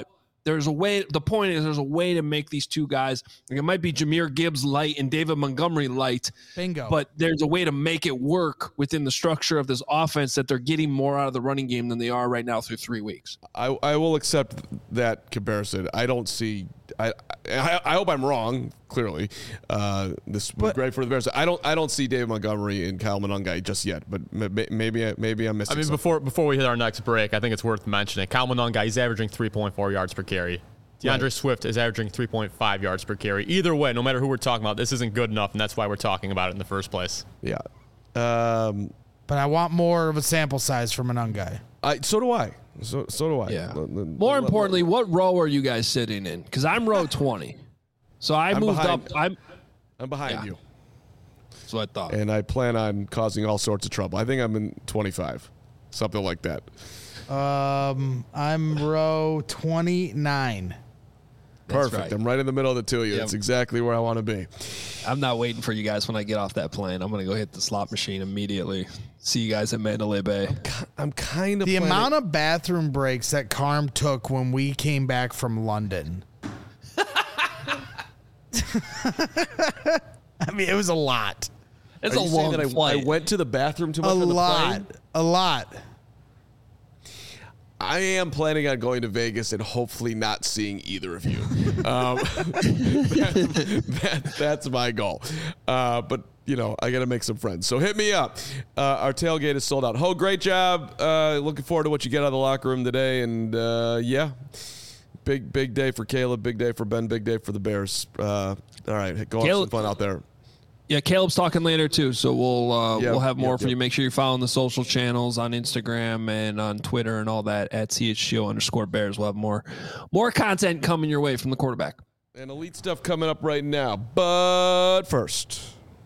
there's a way. The point is, there's a way to make these two guys. Like it might be Jahmyr Gibbs light and David Montgomery light. Bingo. But there's a way to make it work within the structure of this offense that they're getting more out of the running game than they are right now through three weeks. I, I will accept that comparison. I don't see. I I, I hope I'm wrong. Clearly, uh, this was great for the Bears. I don't. I don't see David Montgomery and Kyle Monangai just yet. But maybe maybe I'm missing. I mean, something. before before we hit our next break, I think it's worth mentioning Kyle Monangai is averaging three point four yards per carry. DeAndre right. Swift is averaging three point five yards per carry. Either way, no matter who we're talking about, this isn't good enough, and that's why we're talking about it in the first place. Yeah. Um, but I want more of a sample size from Monangai. I so do I. So so do I. Yeah. L- l- More l- importantly, l- what row are you guys sitting in? Because I'm row twenty, so I I'm moved behind, up. I'm I'm behind yeah. you. That's what I thought. And I plan on causing all sorts of trouble. I think I'm in twenty-five, something like that. Um, I'm row twenty-nine. Perfect. Right. I'm right in the middle of the two of you. Yep. That's exactly where I want to be. I'm not waiting for you guys when I get off that plane. I'm going to go hit the slot machine immediately. See you guys at Mandalay Bay. I'm, I'm kind of the planning- amount of bathroom breaks that Carm took when we came back from London. I mean, it was a lot. It's Are a you saying long that I, flight. I went to the bathroom too much A on the lot. plane? A lot. I am planning on going to Vegas and hopefully not seeing either of you. um, that, that, that's my goal. Uh, but, you know, I got to make some friends. So hit me up. Uh, our tailgate is sold out. Ho, great job. Uh, looking forward to what you get out of the locker room today. And, uh, yeah, big, big day for Caleb, big day for Ben, big day for the Bears. Uh, all right, go have some fun out there. Yeah, Caleb's talking later too, so we'll uh, Yep, we'll have more yep, for yep. you. Make sure you're following the social channels on Instagram and on Twitter and all that at C H G O underscore Bears. We'll have more more content coming your way from the quarterback. And elite stuff coming up right now. But first,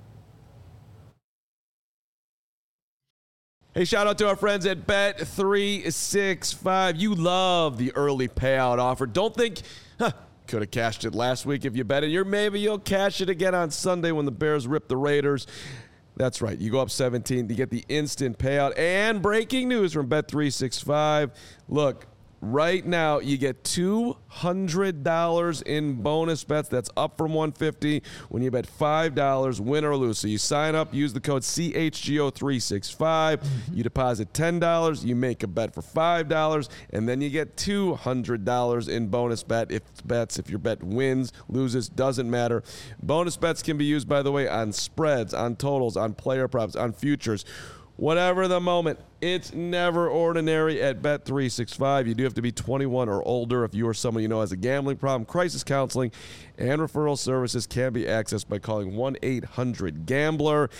hey, shout out to our friends at Bet three sixty-five. You love the early payout offer. Don't think, huh, could have cashed it last week if you bet it. You're maybe you'll cash it again on Sunday when the Bears rip the Raiders. That's right. You go up seventeen to get the instant payout. And breaking news from Bet three sixty-five. Look, right now you get two hundred dollars in bonus bets. That's up from one hundred fifty dollars when you bet five dollars, win or lose. So you sign up, use the code C H G O three sixty-five. You deposit ten dollars, you make a bet for five dollars, and then you get two hundred dollars in bonus bet if bets. If your bet wins, loses, doesn't matter. Bonus bets can be used, by the way, on spreads, on totals, on player props, on futures. Whatever the moment, it's never ordinary at Bet three sixty-five. You do have to be twenty-one or older. If you or someone you know has a gambling problem, crisis counseling and referral services can be accessed by calling one eight hundred gambler.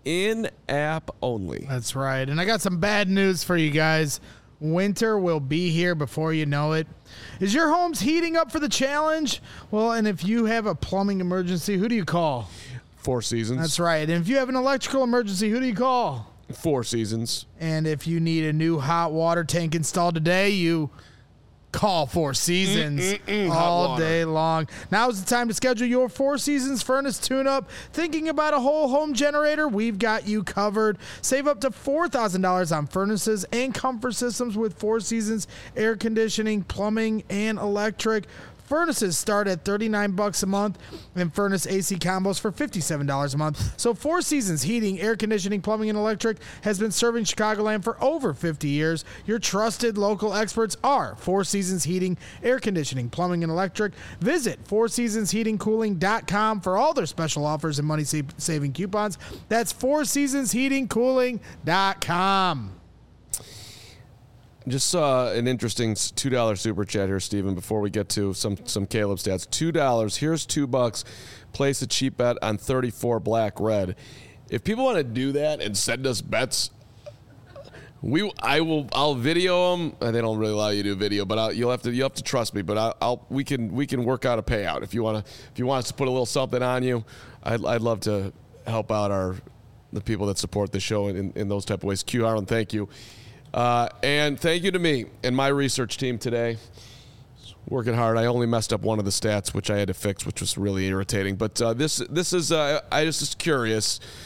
In-app only. That's right. And I got some bad news for you guys. Winter will be here before you know it. Is your home's heating up for the challenge? Well, and if you have a plumbing emergency, who do you call? Four Seasons. That's right. And if you have an electrical emergency, who do you call? Four Seasons. And if you need a new hot water tank installed today, you call Four Seasons Mm-mm-mm, all day long. Now is the time to schedule your Four Seasons furnace tune-up. Thinking about a whole home generator? We've got you covered. Save up to four thousand dollars on furnaces and comfort systems with Four Seasons air conditioning, plumbing, and electric. Furnaces start at thirty-nine bucks a month and furnace A C combos for fifty-seven dollars a month. So Four Seasons Heating, Air Conditioning, Plumbing, and Electric has been serving Chicagoland for over fifty years. Your trusted local experts are Four Seasons Heating, Air Conditioning, Plumbing, and Electric. Visit four seasons heating cooling dot com for all their special offers and money-saving coupons. That's four seasons heating cooling dot com. Just saw an interesting two dollar super chat here, Steven, before we get to some, some Caleb stats. two dollars. Here's two bucks. Place a cheap bet on thirty-four black red. If people want to do that and send us bets, we I will I'll video them. They don't really allow you to do video, but I'll, you'll have to you have to trust me. But I'll, I'll we can we can work out a payout if you want to if you want us to put a little something on you. I'd I'd love to help out our the people that support the show in, in those type of ways. Q Harlan, thank you. Uh, and thank you to me and my research team today. Working hard. I only messed up one of the stats, which I had to fix, which was really irritating. But uh, this this is, uh, I just was curious.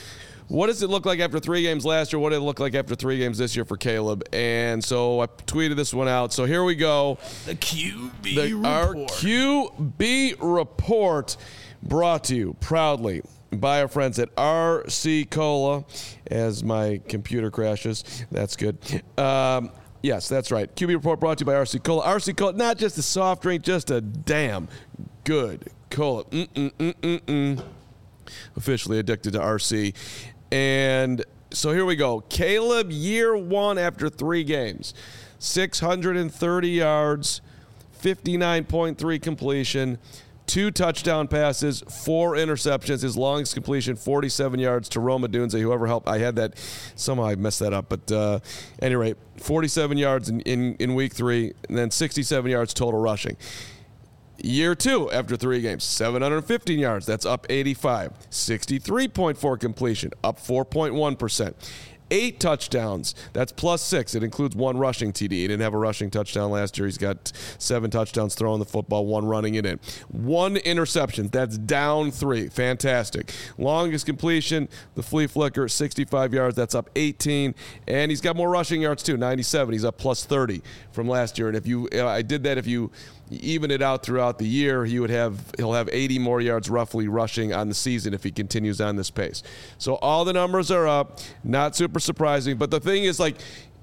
what does it look like after three games last year? What did it look like after three games this year for Caleb? And so I tweeted this one out. So here we go. The Q B the, report. Our Q B report brought to you proudly by our friends at R C Cola. As my computer crashes, that's good. Um, yes, that's right. Q B report brought to you by R C Cola. R C Cola, not just a soft drink, just a damn good cola. Mm-mm-mm-mm-mm. Officially addicted to R C. And so here we go. Caleb, year one after three games. six hundred thirty yards, fifty-nine point three completion, two touchdown passes, four interceptions. His longest completion, forty-seven yards to Roma Dunze, whoever helped. I had that. Somehow I messed that up. But uh, at any rate, forty-seven yards in, in, in week three, and then sixty-seven yards total rushing. Year two, after three games, seven hundred fifteen yards. That's up eighty-five. sixty-three point four completion, up four point one percent. Eight touchdowns. That's plus six. It includes one rushing T D. He didn't have a rushing touchdown last year. He's got seven touchdowns throwing the football, one running it in. One interception. That's down three. Fantastic. Longest completion, the flea flicker, sixty-five yards. That's up eighteen. And he's got more rushing yards too, ninety-seven. He's up plus thirty from last year. And if you, I did that if you even it out throughout the year, he would have he'll have eighty more yards roughly rushing on the season if he continues on this pace. So all the numbers are up. Not super surprising, but the thing is, like,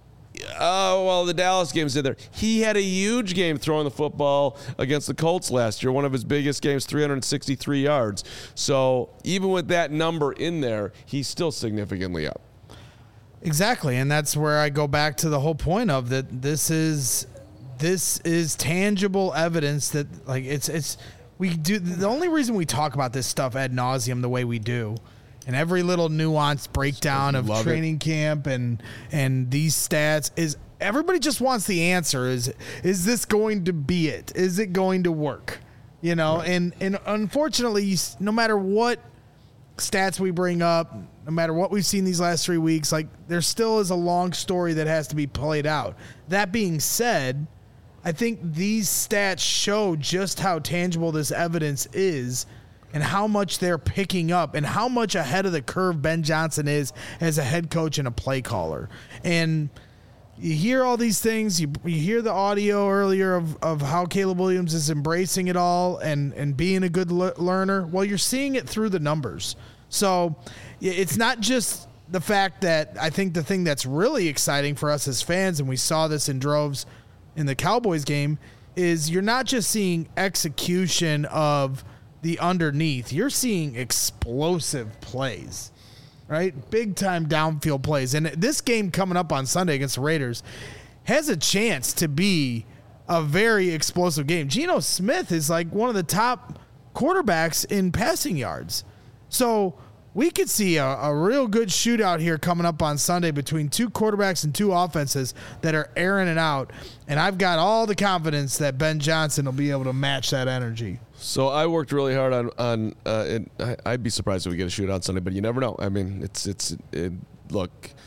oh well, the Dallas game's in there. He had a huge game throwing the football against the Colts last year. One of his biggest games, three hundred sixty-three yards. So even with that number in there, he's still significantly up. Exactly, and that's where I go back to the whole point of that. This is. This is tangible evidence that, like, it's it's we do. The only reason we talk about this stuff ad nauseum the way we do, and every little nuanced breakdown of training camp and and these stats is everybody just wants the answer. Is is this going to be it? Is it going to work? You know, right. and and unfortunately, no matter what stats we bring up, no matter what we've seen these last three weeks, like, there still is a long story that has to be played out. That being said, I think these stats show just how tangible this evidence is and how much they're picking up and how much ahead of the curve Ben Johnson is as a head coach and a play caller. And you hear all these things. You, you hear the audio earlier of, of how Caleb Williams is embracing it all and, and being a good le- learner. Well, you're seeing it through the numbers. So it's not just the fact that I think the thing that's really exciting for us as fans, and we saw this in droves in the Cowboys game, is you're not just seeing execution of the underneath. You're seeing explosive plays, right? Big time downfield plays. And this game coming up on Sunday against the Raiders has a chance to be a very explosive game. Geno Smith is like one of the top quarterbacks in passing yards. So we could see a, a real good shootout here coming up on Sunday between two quarterbacks and two offenses that are airing it out. And I've got all the confidence that Ben Johnson will be able to match that energy. So I worked really hard on on. Uh, it, I, I'd be surprised if we get a shootout Sunday, but you never know. I mean, it's it's it, look,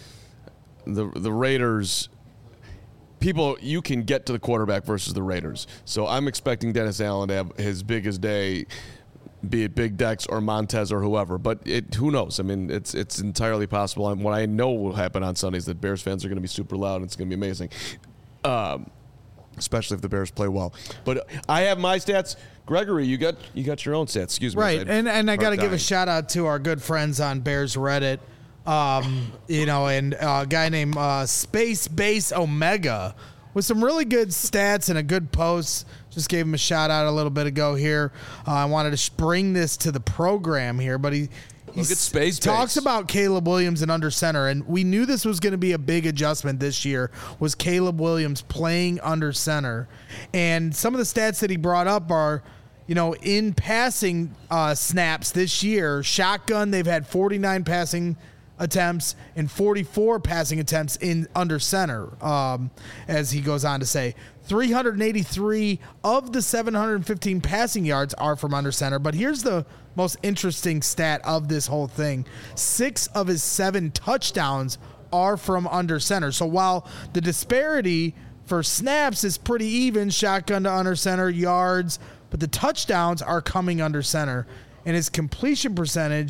the the Raiders. People, you can get to the quarterback versus the Raiders. So I'm expecting Dennis Allen to have his biggest day, be it Big Dex or Montez or whoever. But it, who knows? I mean, it's it's entirely possible. And what I know will happen on Sunday is that Bears fans are going to be super loud, and it's going to be amazing, um, especially if the Bears play well. But I have my stats. Gregory, you got you got your own stats. Excuse me. Right, and and I got to give a shout out to our good friends on Bears Reddit. Um, you know, and a guy named uh, Space Base Omega with some really good stats and a good post. Just gave him a shout out a little bit ago here. Uh, I wanted to bring this to the program here, but he he Space talks Base. about Caleb Williams and under center, and we knew this was going to be a big adjustment this year. Was Caleb Williams playing under center, and some of the stats that he brought up are, you know, in passing uh, snaps this year, shotgun they've had forty-nine passing attempts and forty-four passing attempts in under center, um, as he goes on to say. three hundred eighty-three of the seven hundred fifteen passing yards are from under center. But here's the most interesting stat of this whole thing. Six of his seven touchdowns are from under center. So while the disparity for snaps is pretty even, shotgun to under center, yards, but the touchdowns are coming under center. And his completion percentage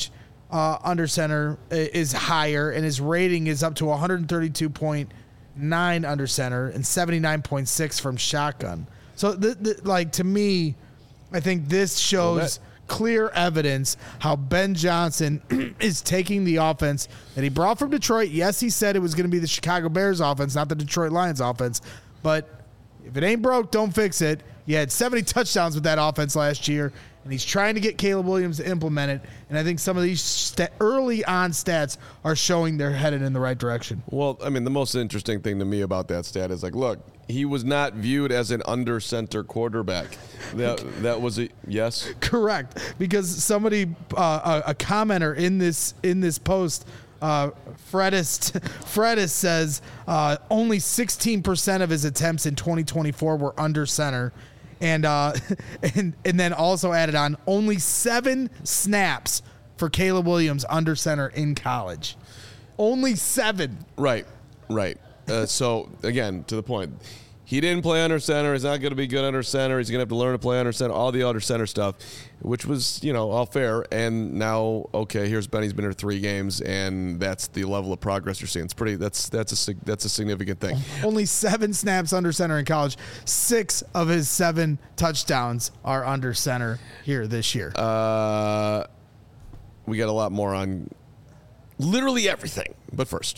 uh, under center is higher, and his rating is up to one thirty-two point nine under center and seventy-nine point six from shotgun. So, the, the, like, to me, I think this shows well, that- clear evidence how Ben Johnson is taking the offense that he brought from Detroit. Yes, he said it was going to be the Chicago Bears offense, not the Detroit Lions offense. But if it ain't broke, don't fix it. You had seventy touchdowns with that offense last year, and he's trying to get Caleb Williams to implement it. And I think some of these st- early on stats are showing they're headed in the right direction. Well, I mean, the most interesting thing to me about that stat is, like, look, he was not viewed as an under center quarterback. That that was a yes. Correct, because somebody, uh, a, a commenter in this in this post, uh, Fredis Fredis says uh, only sixteen percent of his attempts in twenty twenty-four were under center, and uh, and and then also added on only seven snaps for Caleb Williams under center in college. Only seven. Right, right. Uh, so, again, to the point, he didn't play under center. He's not going to be good under center. He's going to have to learn to play under center, all the under center stuff, which was, you know, all fair. And now, okay, here's Ben. He's been here three games, and that's the level of progress you're seeing. It's pretty. That's that's a that's a significant thing. Only seven snaps under center in college. Six of his seven touchdowns are under center here this year. Uh, we got a lot more on literally everything. But first.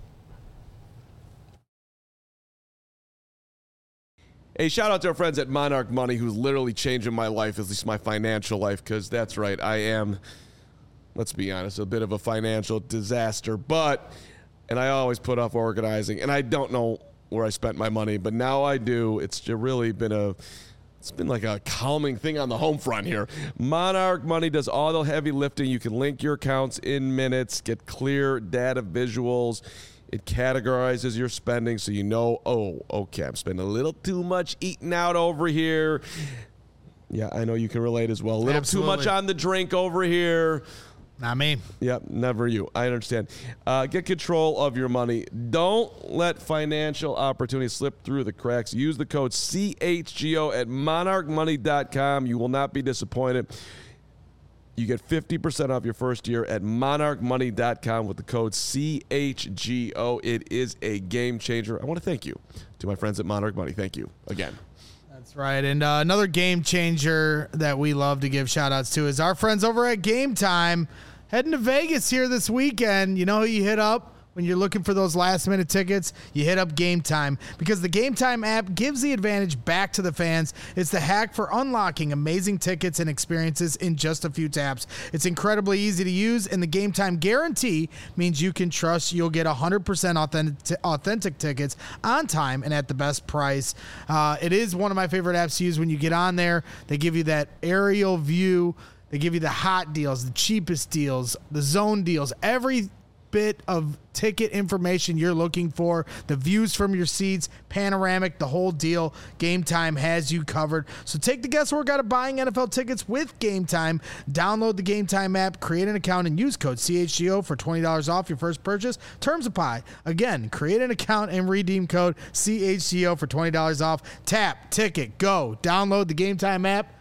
Hey, shout out to our friends at Monarch Money, who's literally changing my life, at least my financial life, because that's right, I am, let's be honest, a bit of a financial disaster. But, and I always put off organizing, and I don't know where I spent my money, but now I do. It's really been a, it's been like a calming thing on the home front here. Monarch Money does all the heavy lifting. You can link your accounts in minutes, get clear data visuals. It categorizes your spending so you know, oh, okay, I'm spending a little too much eating out over here. Yeah, I know you can relate as well. A little Absolutely. too much on the drink over here. Not me. Yep, never you. I understand. Uh, get control of your money. Don't let financial opportunities slip through the cracks. Use the code C H G O at monarch money dot com. You will not be disappointed. You get fifty percent off your first year at monarch money dot com with the code C H G O. It is a game changer. I want to thank you to my friends at Monarch Money. Thank you again. That's right. And uh, another game changer that we love to give shout outs to is our friends over at Game Time. Heading to Vegas here this weekend. You know who you hit up when you're looking for those last minute tickets? You hit up Game Time, because the Game Time app gives the advantage back to the fans. It's the hack for unlocking amazing tickets and experiences in just a few taps. It's incredibly easy to use, and the Game Time guarantee means you can trust you'll get one hundred percent authentic, authentic tickets on time and at the best price. Uh, it is one of my favorite apps to use. When you get on there, they give you that aerial view. They give you the hot deals, the cheapest deals, the zone deals, every bit of ticket information you're looking for, the views from your seats, panoramic, the whole deal. Game Time has you covered. So take the guesswork out of buying N F L tickets with Game Time. Download the Game Time app, create an account, and use code C H G O for twenty dollars off your first purchase. Terms apply. Again, create an account and redeem code C H G O for twenty dollars off. Tap, ticket, go. Download the Game Time app.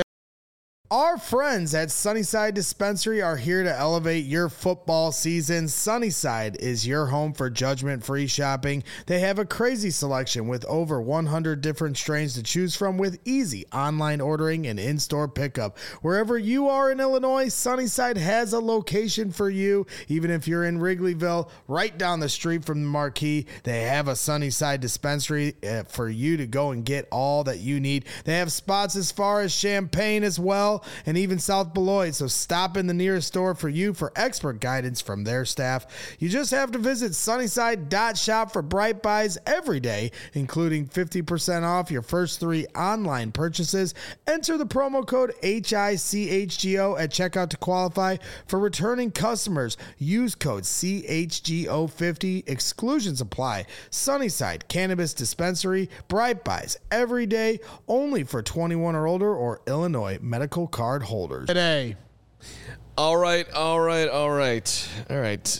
Our friends at Sunnyside Dispensary are here to elevate your football season. Sunnyside is your home for judgment-free shopping. They have a crazy selection with over one hundred different strains to choose from, with easy online ordering and in-store pickup. Wherever you are in Illinois, Sunnyside has a location for you. Even if you're in Wrigleyville, right down the street from the Marquee, they have a Sunnyside Dispensary for you to go and get all that you need. They have spots as far as Champaign as well, and even South Beloit, so stop in the nearest store for you for expert guidance from their staff. You just have to visit sunnyside dot shop for bright buys every day, including fifty percent off your first three online purchases. Enter the promo code H I C H G O at checkout to qualify. For returning customers, use code C H G O fifty. Exclusions apply. Sunnyside Cannabis Dispensary, bright buys every day, only for twenty-one or older or Illinois medical card holders. Today. All right, all right, all right, all right,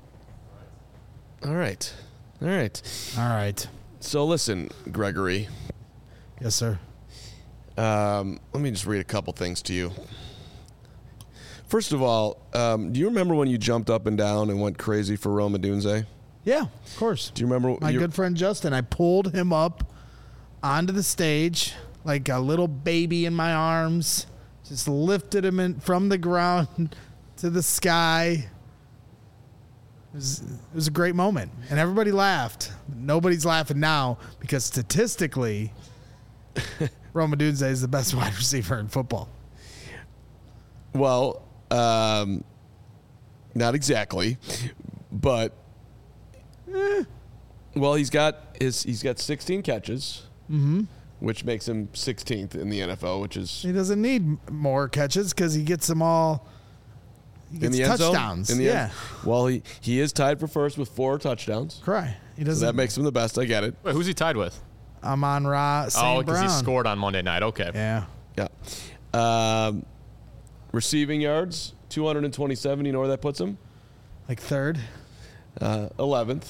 all right, all right. All right. So listen, Gregory. Yes, sir. Um, let me just read a couple things to you. First of all, um, do you remember when you jumped up and down and went crazy for Rome Odunze? Yeah, of course. Do you remember? My your- good friend Justin, I pulled him up onto the stage like a little baby in my arms, just lifted him in, from the ground to the sky. It was, it was a great moment, and everybody laughed. Nobody's laughing now because statistically, Rome Odunze is the best wide receiver in football. Well, um, not exactly, but eh, well, he's got his he's got sixteen catches, mm-hmm. which makes him sixteenth in the N F L, which is He doesn't need more catches because he gets them all. He gets in the end touchdowns. zone. In the yeah, end. Well, he he is tied for first with four touchdowns. cry. He So doesn't. that makes him the best. I get it. Wait, who's he tied with? Amon Ra. Saint Oh, because he Brown. scored on Monday night. Okay. Yeah. Yeah. Um, receiving yards, two hundred twenty-seven. You know where that puts him? Like third. Uh, eleventh.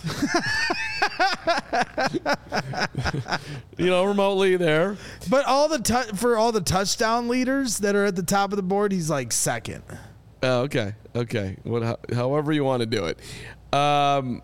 You know, remotely there. But all the tu- for all the touchdown leaders that are at the top of the board, he's like second. Oh, okay. Okay. What, how, however you want to do it. Um,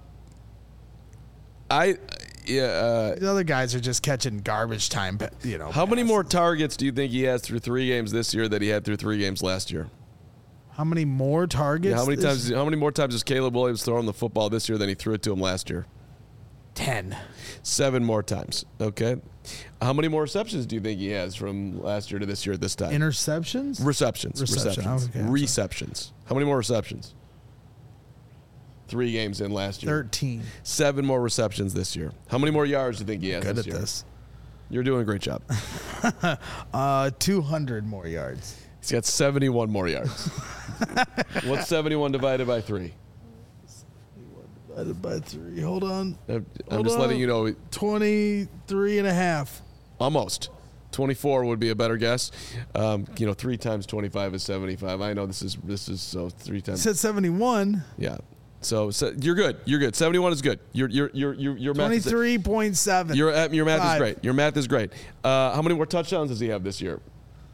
I, yeah. Uh, The other guys are just catching garbage time. You know. how many passes. more targets do you think he has through three games this year that he had through three games last year? How many more targets? Yeah, how many this- times? How many more times has Caleb Williams thrown the football this year than he threw it to him last year? Ten. Seven more times. Okay. How many more receptions do you think he has from last year to this year at this time? Interceptions. Receptions. Reception. Receptions. Okay, I'm sorry. receptions. How many more receptions? Three games in last year. Thirteen. Seven more receptions this year. How many more yards do you think he has Good this at year? this. You're doing a great job. Uh, two hundred more yards. He's got seventy-one more yards. What's seventy-one divided by three? Divided by three. Hold on. I'm Hold just letting on. you know. Twenty-three and a half. Almost. twenty-four would be a better guess. Um, you know, three times twenty-five is seventy-five. I know this is this is so three It times. said seventy-one. Yeah. So, so you're good. You're good. seventy-one is good. Your your your your your math is, Twenty-three point seven. your uh, your math is Five. great. Your math is great. Uh, how many more touchdowns does he have this year?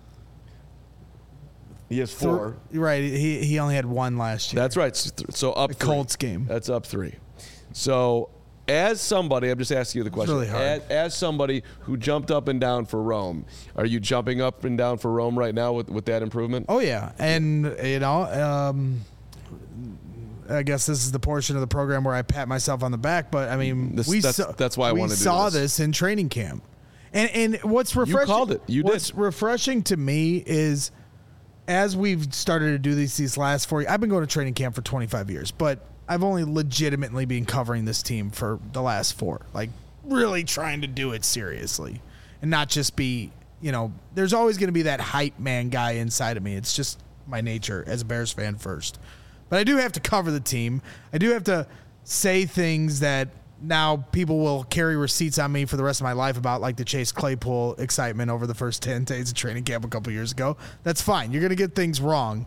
He has four. You're right. He he only had one last year. That's right. So, so up the three. Colts game. That's up three. So, as somebody, I'm just asking you the question. really hard. As, as somebody who jumped up and down for Rome, are you jumping up and down for Rome right now with, with that improvement? Oh yeah, and you know, um, I guess this is the portion of the program where I pat myself on the back. But I mean, This- we that's- saw, that's why I we wanted to do saw this. this in training camp, and and what's refreshing? called it. You did. What's refreshing to me is, as we've started to do these these last four. I've been going to training camp for twenty-five years, but I've only legitimately been covering this team for the last four. Like really trying to do it seriously, and not just be. You know, there's always going to be that hype man guy inside of me. It's just my nature as a Bears fan first. But I do have to cover the team. I do have to say things that now people will carry receipts on me for the rest of my life about, like the Chase Claypool excitement over the first ten days of training camp a couple years ago. That's fine. You're going to get things wrong.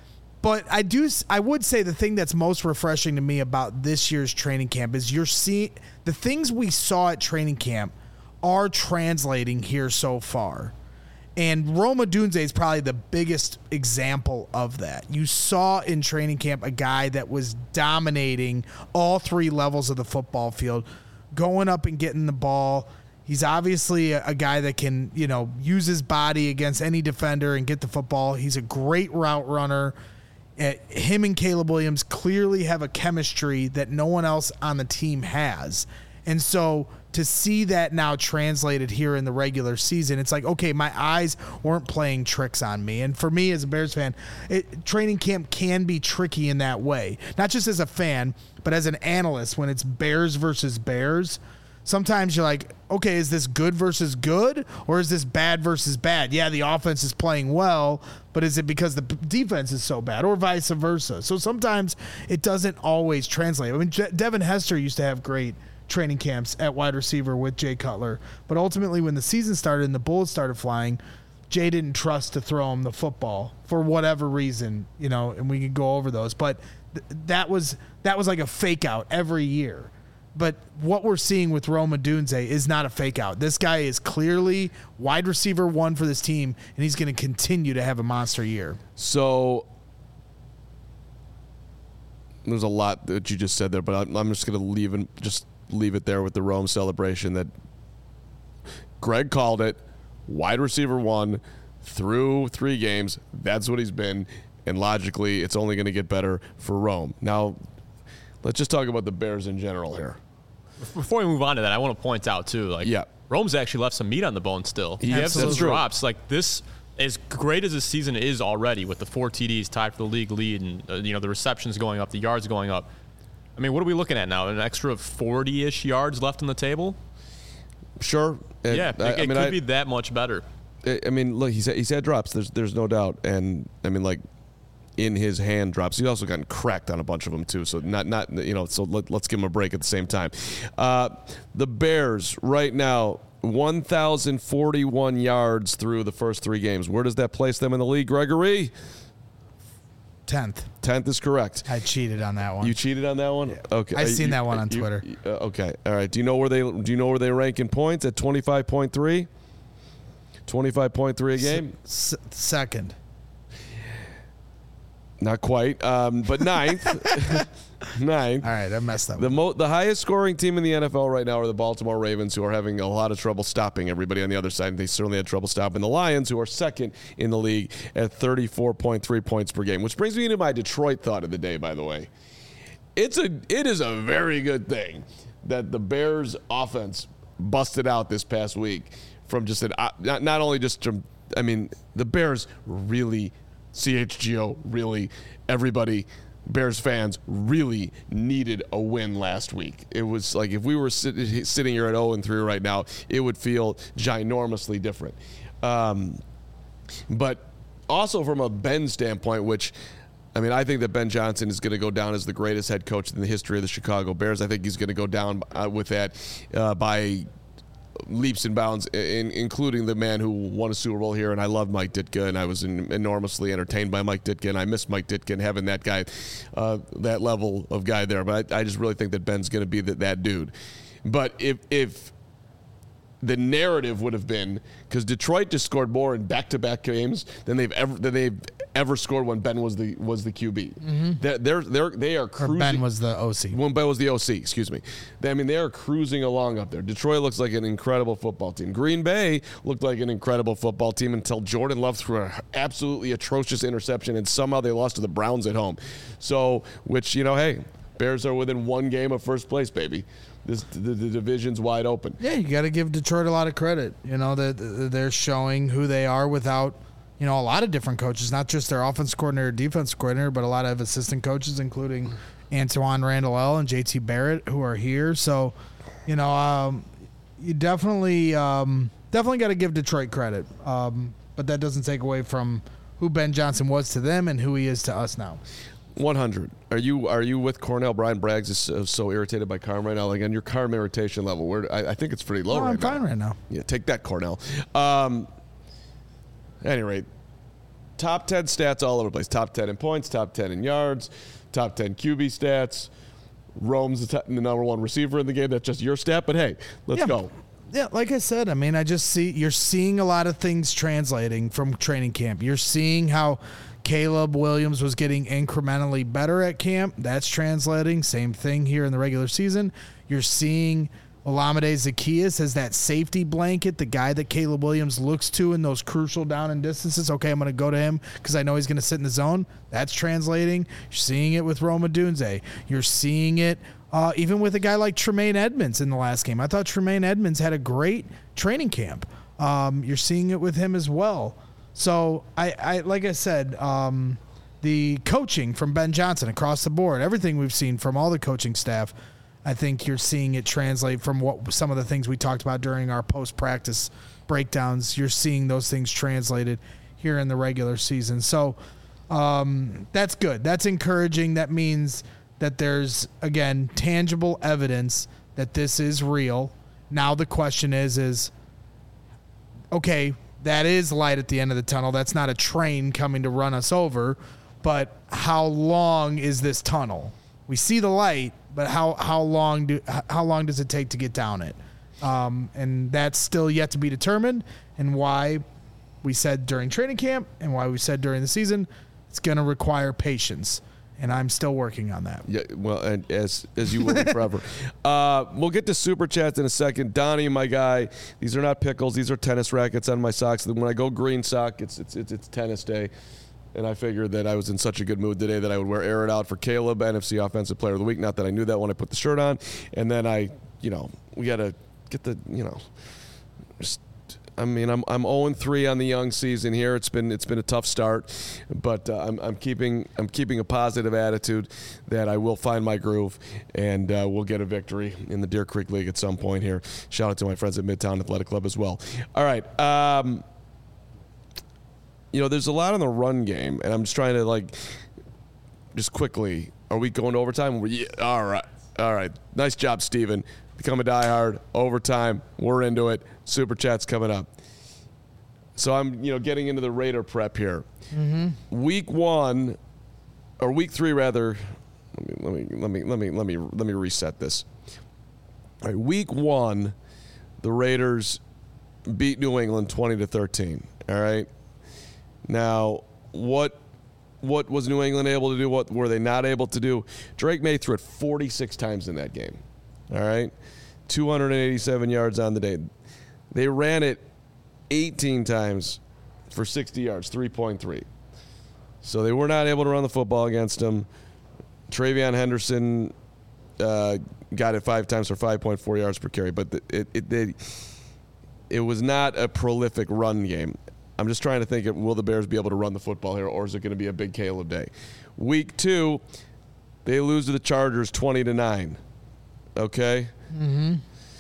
But I do. I would say the thing that's most refreshing to me about this year's training camp is you're seeing the things we saw at training camp are translating here so far. And Rome Odunze is probably the biggest example of that. You saw in training camp a guy that was dominating all three levels of the football field, going up and getting the ball. He's obviously a, a guy that can, you know, use his body against any defender and get the football. He's a great route runner. Uh, him and Caleb Williams clearly have a chemistry that no one else on the team has. And so to see that now translated here in the regular season, it's like, okay, my eyes weren't playing tricks on me. And for me as a Bears fan, it, training camp can be tricky in that way. Not just as a fan, but as an analyst when it's Bears versus Bears. Sometimes you're like, okay, is this good versus good, or is this bad versus bad? Yeah, the offense is playing well, but is it because the defense is so bad, or vice versa? So sometimes it doesn't always translate. I mean, Je- Devin Hester used to have great training camps at wide receiver with Jay Cutler, but ultimately when the season started and the bullets started flying, Jay didn't trust to throw him the football for whatever reason, you know, and we could go over those. But th- that was that was like a fake out every year. But what we're seeing with Rome Odunze is not a fake out. This guy is clearly wide receiver one for this team, and he's going to continue to have a monster year. So there's a lot that you just said there, but I'm, I'm just going to leave and just leave it there with the Rome celebration that Greg called it. Wide receiver one through three games. That's what he's been, and logically, it's only going to get better for Rome. Now, let's just talk about the Bears in general here. Before we move on to that, I want to point out too, like yeah. Rome's actually left some meat on the bone still. He has some drops. Like this, as great as the season is already, with the four T Ds tied for the league lead, and uh, you know the receptions going up, the yards going up. I mean, what are we looking at now? An extra forty-ish yards left on the table? Sure. It, yeah, it, I, it I mean, could I, be that much better. I mean, look, he's he's had drops. There's there's no doubt, and I mean, like in his hand drops. He's also gotten cracked on a bunch of them too. So not not you know. So let, let's give him a break at the same time. Uh, the Bears right now, one thousand forty-one yards through the first three games. Where does that place them in the league, Gregory? tenth. tenth is correct. I cheated on that one. You cheated on that one? Yeah. Okay. I've seen you, that one on you, Twitter. Uh, okay. All right. Do you know where they do you know where they rank in points at twenty-five point three? twenty-five point three a game? S- second. Not quite, um, but ninth. ninth. All right, I messed up. The mo- the highest scoring team in the N F L right now are the Baltimore Ravens, who are having a lot of trouble stopping everybody on the other side. They certainly had trouble stopping the Lions, who are second in the league at thirty-four point three points per game, which brings me into my Detroit thought of the day, by the way. It's a it is a very good thing that the Bears offense busted out this past week from just an, uh, not, not only just from, I mean, the Bears really C H G O, really, everybody, Bears fans really needed a win last week. It was like if we were sit, sitting here at oh and three right now, it would feel ginormously different. Um, but also from a Ben standpoint, which, I mean, I think that Ben Johnson is going to go down as the greatest head coach in the history of the Chicago Bears. I think he's going to go down uh, with that uh, by leaps and bounds, in, including the man who won a Super Bowl here, and I love Mike Ditka, and I was in, enormously entertained by Mike Ditka, and I miss Mike Ditka and having that guy, uh, that level of guy there. But I, I just really think that Ben's going to be the, that dude. But if if the narrative would have been, because Detroit just scored more in back-to-back games than they've ever than they've ever scored when Ben was the was the Q B. Mm-hmm. They're, they're they're they are cruising. Or Ben was the O C. When Ben was the O C, excuse me. They, I mean, they are cruising along up there. Detroit looks like an incredible football team. Green Bay looked like an incredible football team until Jordan Love threw an absolutely atrocious interception, and somehow they lost to the Browns at home. So, which, you know, hey, Bears are within one game of first place, baby. This the, the division's wide open. Yeah, you got to give Detroit a lot of credit. You know, that they're showing who they are without, you know, a lot of different coaches, not just their offense coordinator, defense coordinator, but a lot of assistant coaches, including Antoine Randall and J T Barrett, who are here. So, you know, um, you definitely um, definitely got to give Detroit credit. Um, but that doesn't take away from who Ben Johnson was to them and who he is to us now. one hundred. Are you are you with Cornell? Brian Braggs is so, so irritated by Carm right now. Like, on your Carm irritation level, where I, I think it's pretty low no, right I'm now. I'm fine right now. Yeah, take that, Cornell. Um, at any rate, top ten stats all over the place. Top ten in points, top ten in yards, top ten Q B stats. Rome's the, t- the number one receiver in the game. That's just your stat, but hey, let's yeah. go. Yeah, like I said, I mean, I just see you're seeing a lot of things translating from training camp. You're seeing how Caleb Williams was getting incrementally better at camp. That's translating. Same thing here in the regular season. You're seeing Olamide Zaccheaus as that safety blanket, the guy that Caleb Williams looks to in those crucial down and distances. Okay, I'm going to go to him because I know he's going to sit in the zone. That's translating. You're seeing it with Rome Odunze. You're seeing it uh, even with a guy like Tremaine Edmonds in the last game. I thought Tremaine Edmonds had a great training camp. Um, you're seeing it with him as well. So, I, I like I said, um, the coaching from Ben Johnson across the board, everything we've seen from all the coaching staff, I think you're seeing it translate from what some of the things we talked about during our post-practice breakdowns. You're seeing those things translated here in the regular season. So, um, that's good. That's encouraging. That means that there's, again, tangible evidence that this is real. Now the question is, is, okay, that is light at the end of the tunnel. That's not a train coming to run us over. But how long is this tunnel? We see the light, but how how long do how long does it take to get down it? Um, and that's still yet to be determined. And why we said during training camp and why we said during the season, it's going to require patience. And I'm still working on that. Yeah, well, and as as you will be forever. Uh, we'll get to super chats in a second. Donnie, my guy, these are not pickles. These are tennis rackets on my socks. When I go green sock, it's it's it's, it's tennis day. And I figured that I was in such a good mood today that I would wear Air It Out for Caleb, N F C Offensive Player of the Week. Not that I knew that when I put the shirt on. And then I, you know, we got to get the, you know, just, I mean, I'm I'm oh and three on the young season here. It's been it's been a tough start, but uh, I'm I'm keeping I'm keeping a positive attitude that I will find my groove and uh, we'll get a victory in the Deer Creek League at some point here. Shout out to my friends at Midtown Athletic Club as well. All right, um, you know, there's a lot on the run game, and I'm just trying to like just quickly. Are we going to overtime? We're, yeah, all right, all right. Nice job, Steven. Become a diehard. Overtime. We're into it. Super chat's coming up. So I'm, you know, getting into the Raider prep here. Mm-hmm. Week one, or week three rather. Let me let me let me let me let me let me reset this. All right, week one, the Raiders beat New England twenty to thirteen. All right. Now, what what was New England able to do? What were they not able to do? Drake May threw it forty-six times in that game. All right, two hundred eighty-seven yards on the day. They ran it eighteen times for sixty yards, three point three. So they were not able to run the football against them. Travion Henderson uh, got it five times for five point four yards per carry, but the, it it, it it was not a prolific run game. I'm just trying to think of, will the Bears be able to run the football here, or is it going to be a big Caleb day? Week two, they lose to the Chargers twenty to nine. Okay. Mm-hmm.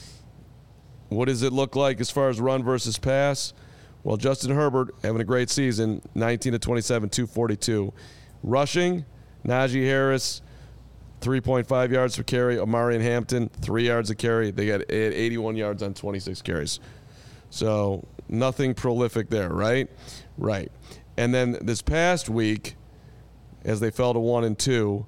What does it look like as far as run versus pass? Well, Justin Herbert having a great season, nineteen to twenty-seven, two forty-two. Rushing, Najee Harris, three point five yards per carry. Omarion Hampton, three yards a carry. They got eighty-one yards on twenty-six carries. So nothing prolific there, right? Right. And then this past week, as they fell to one and two,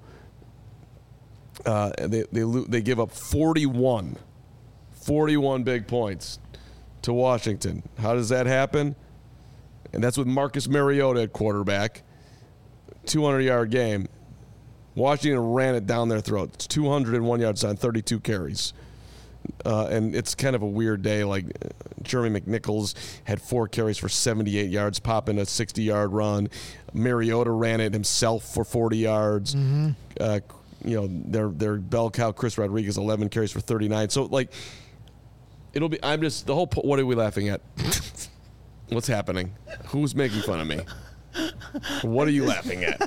Uh, they they they give up forty-one, forty-one big points to Washington. How does that happen? And that's with Marcus Mariota at quarterback. two hundred yard game. Washington ran it down their throat. It's two hundred one yards on thirty-two carries. Uh, and it's kind of a weird day. Like uh, Jeremy McNichols had four carries for seventy-eight yards, popping a sixty-yard run. Mariota ran it himself for forty yards. Mm-hmm. Uh, you know, their their bell cow Chris Rodriguez, eleven carries for thirty-nine. So like, it'll be. I'm just the whole. What are we laughing at? What's happening? Who's making fun of me? What are you laughing at?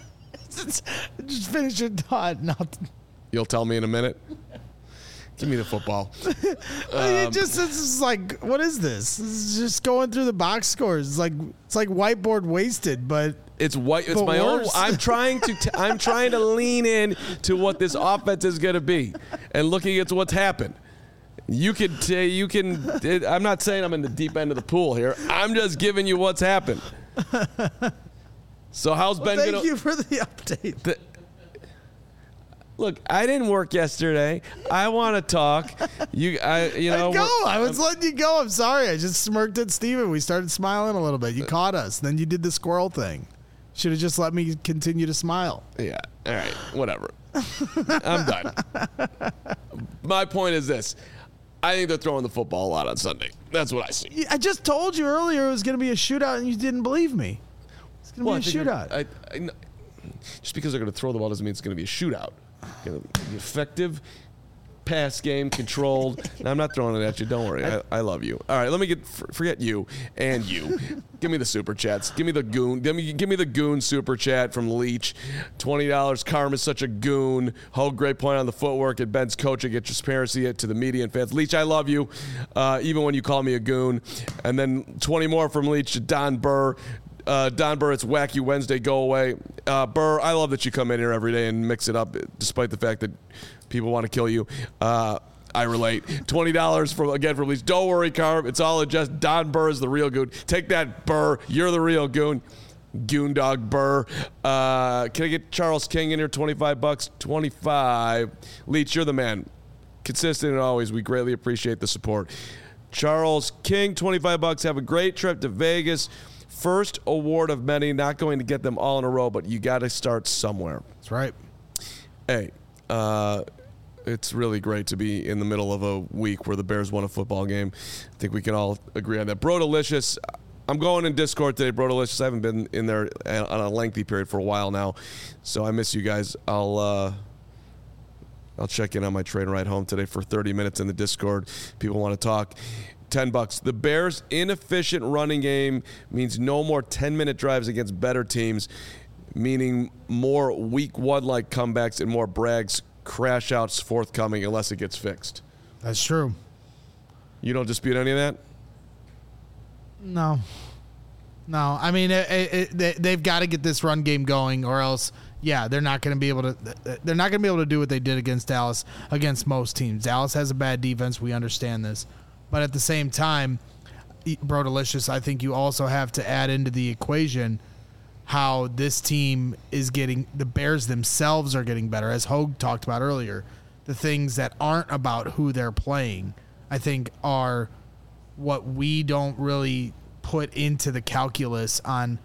Just finish your thought. Nothing. You'll tell me in a minute. Give me the football. Um, it just it's just like, what is this? This is just going through the box scores. It's like it's like whiteboard wasted, but it's white. It's but my worse. own. I'm trying to. T- I'm trying to lean in to what this offense is going to be, and looking at what's happened. You can. T- you can. It, I'm not saying I'm in the deep end of the pool here. I'm just giving you what's happened. So how's well, Ben? Thank gonna, you for the update. The, Look, I didn't work yesterday. I want to talk. You, I, you know. Go. I was letting you go. I'm sorry. I just smirked at Steven. We started smiling a little bit. You caught us. Then you did the squirrel thing. Should have just let me continue to smile. Yeah. All right. Whatever. I'm done. My point is this. I think they're throwing the football a lot on Sunday. That's what I see. I just told you earlier it was going to be a shootout, and you didn't believe me. It's going to Well, be a shootout. I, I, just because they're going to throw the ball doesn't mean it's going to be a shootout. You know, effective pass game, controlled. Now, I'm not throwing it at you. Don't worry. I, I love you. All right, let me get forget you and you. Give me the super chats. Give me the goon. Give me give me the goon super chat from Leach. Twenty dollars. Karma's such a goon. Whole great point on the footwork at Ben's coaching. Get transparency to the media and fans. Leach, I love you, uh, even when you call me a goon. And then twenty more from Leach. Don Burr. Uh, Don Burr, it's Wacky Wednesday, go away. Uh, Burr, I love that you come in here every day and mix it up, despite the fact that people want to kill you. Uh, I relate. twenty dollars from again from Leach. Don't worry, Carm. It's all just Don Burr is the real goon. Take that, Burr. You're the real goon. Goon dog Burr. Uh, can I get Charles King in here? twenty-five bucks. twenty-five. Leach, you're the man. Consistent and always. We greatly appreciate the support. Charles King, twenty-five bucks. Have a great trip to Vegas. First award of many, not going to get them all in a row, but you got to start somewhere. That's right. Hey, uh, it's really great to be in the middle of a week where the Bears won a football game. I think we can all agree on that. Bro Delicious, I'm going in Discord today, Bro Delicious. I haven't been in there on a lengthy period for a while now, so I miss you guys. I'll uh, I'll check in on my train ride home today for thirty minutes in the Discord. People want to talk. ten bucks. The Bears' inefficient running game means no more ten-minute drives against better teams, meaning more week one-like comebacks and more Bragg's crash outs forthcoming unless it gets fixed. That's true. You don't dispute any of that? No. No. I mean, it, it, it, they've got to get this run game going, or else, yeah, they're not going to be able to. They're not going to be able to do what they did against Dallas, against most teams. Dallas has a bad defense. We understand this. But at the same time, Bro Delicious, I think you also have to add into the equation how this team is getting, the Bears themselves are getting better, as Hogue talked about earlier. The things that aren't about who they're playing, I think, are what we don't really put into the calculus on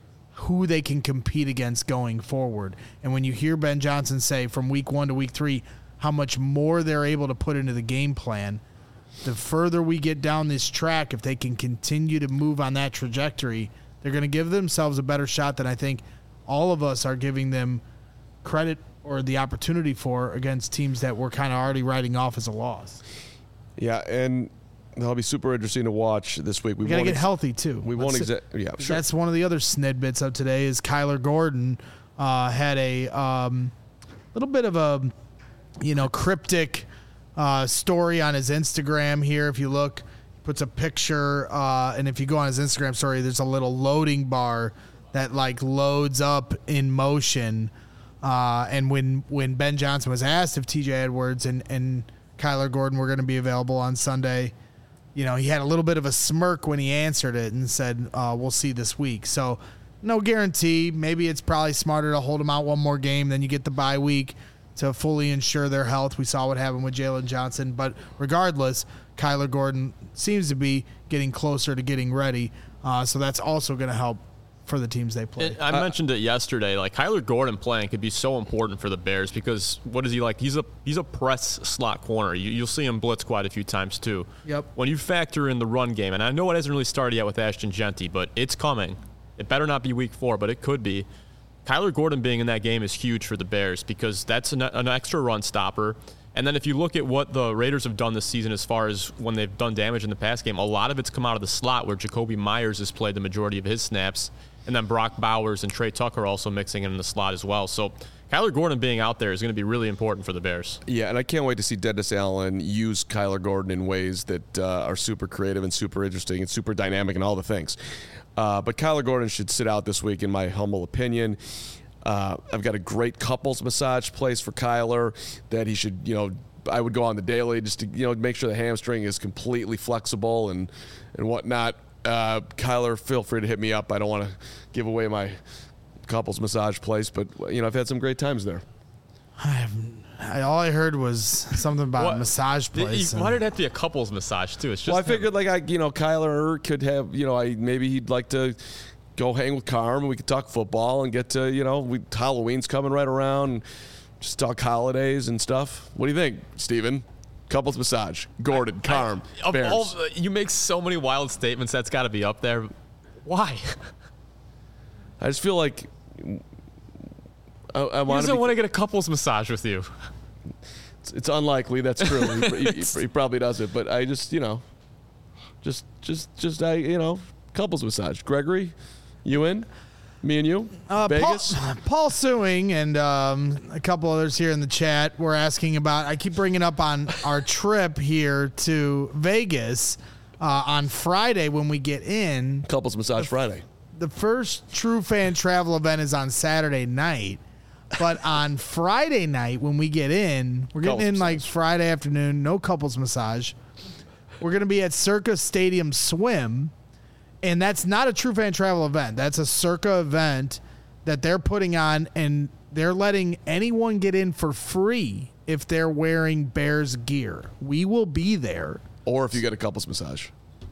who they can compete against going forward. And when you hear Ben Johnson say from week one to week three how much more they're able to put into the game plan, the further we get down this track, if they can continue to move on that trajectory, they're going to give themselves a better shot than I think all of us are giving them credit or the opportunity for against teams that we're kind of already writing off as a loss. Yeah, and that'll be super interesting to watch this week. We got to get ex- healthy, too. We won't exa- yeah, sure. That's one of the other snidbits of today is Kyler Gordon uh, had a um, little bit of a, you know, cryptic uh, story on his Instagram here. If you look, puts a picture, uh, and if you go on his Instagram story, there's a little loading bar that like loads up in motion. Uh, and when, when Ben Johnson was asked if T J Edwards and, and Kyler Gordon were going to be available on Sunday, you know, he had a little bit of a smirk when he answered it and said, uh, we'll see this week. So no guarantee. Maybe it's probably smarter to hold them out one more game, then you get the bye week to fully ensure their health. We saw what happened with Jalen Johnson. But regardless, Kyler Gordon seems to be getting closer to getting ready. Uh, so that's also going to help for the teams they play. It, I uh, mentioned it yesterday. Like Kyler Gordon playing could be so important for the Bears because what is he like? He's a he's a press slot corner. You, you'll see him blitz quite a few times too. Yep. When you factor in the run game, and I know it hasn't really started yet with Ashton Genty, but it's coming. It better not be week four, but it could be. Kyler Gordon being in that game is huge for the Bears because that's an, an extra run stopper. And then if you look at what the Raiders have done this season as far as when they've done damage in the pass game, a lot of it's come out of the slot where Jacoby Myers has played the majority of his snaps. And then Brock Bowers and Trey Tucker also mixing in the slot as well. So Kyler Gordon being out there is going to be really important for the Bears. Yeah, and I can't wait to see Dennis Allen use Kyler Gordon in ways that uh, are super creative and super interesting and super dynamic and all the things. Uh, but Kyler Gordon should sit out this week, in my humble opinion. Uh, I've got a great couples massage place for Kyler that he should, you know, I would go on the daily just to, you know, make sure the hamstring is completely flexible and, and whatnot. Uh, Kyler, feel free to hit me up. I don't want to give away my couples massage place, but, you know, I've had some great times there. I have, I, all I heard was something about what? a massage place. Why did it have to be a couples massage, too? It's just well, I him. figured, like, I, you know, Kyler could have, you know, I maybe he'd like to go hang with Carm and we could talk football and get to, you know, we, Halloween's coming right around and just talk holidays and stuff. What do you think, Steven? Couples massage, Gordon, I, Carm, I, Bears. All, you make so many wild statements. That's got to be up there. Why? I just feel like I, I he want doesn't be, want to get a couples massage with you. It's, it's unlikely. That's true. he, he, he probably does it, but I just, you know, just, just, just, I, you know, couples massage. Gregory, you in? Me and you? Uh, Vegas? Paul, Paul Suing and um, a couple others here in the chat were asking about, I keep bringing up on our trip here to Vegas uh, on Friday when we get in. Couples massage Friday. The first True Fan Travel event is on Saturday night. But on Friday night when we get in, we're getting couples in like massage. Friday afternoon, no couples massage. We're going to be at Circa Stadium Swim. And that's not a True Fan Travel event. That's a Circa event that they're putting on, and they're letting anyone get in for free if they're wearing Bears gear. We will be there. Or if you get a couples massage.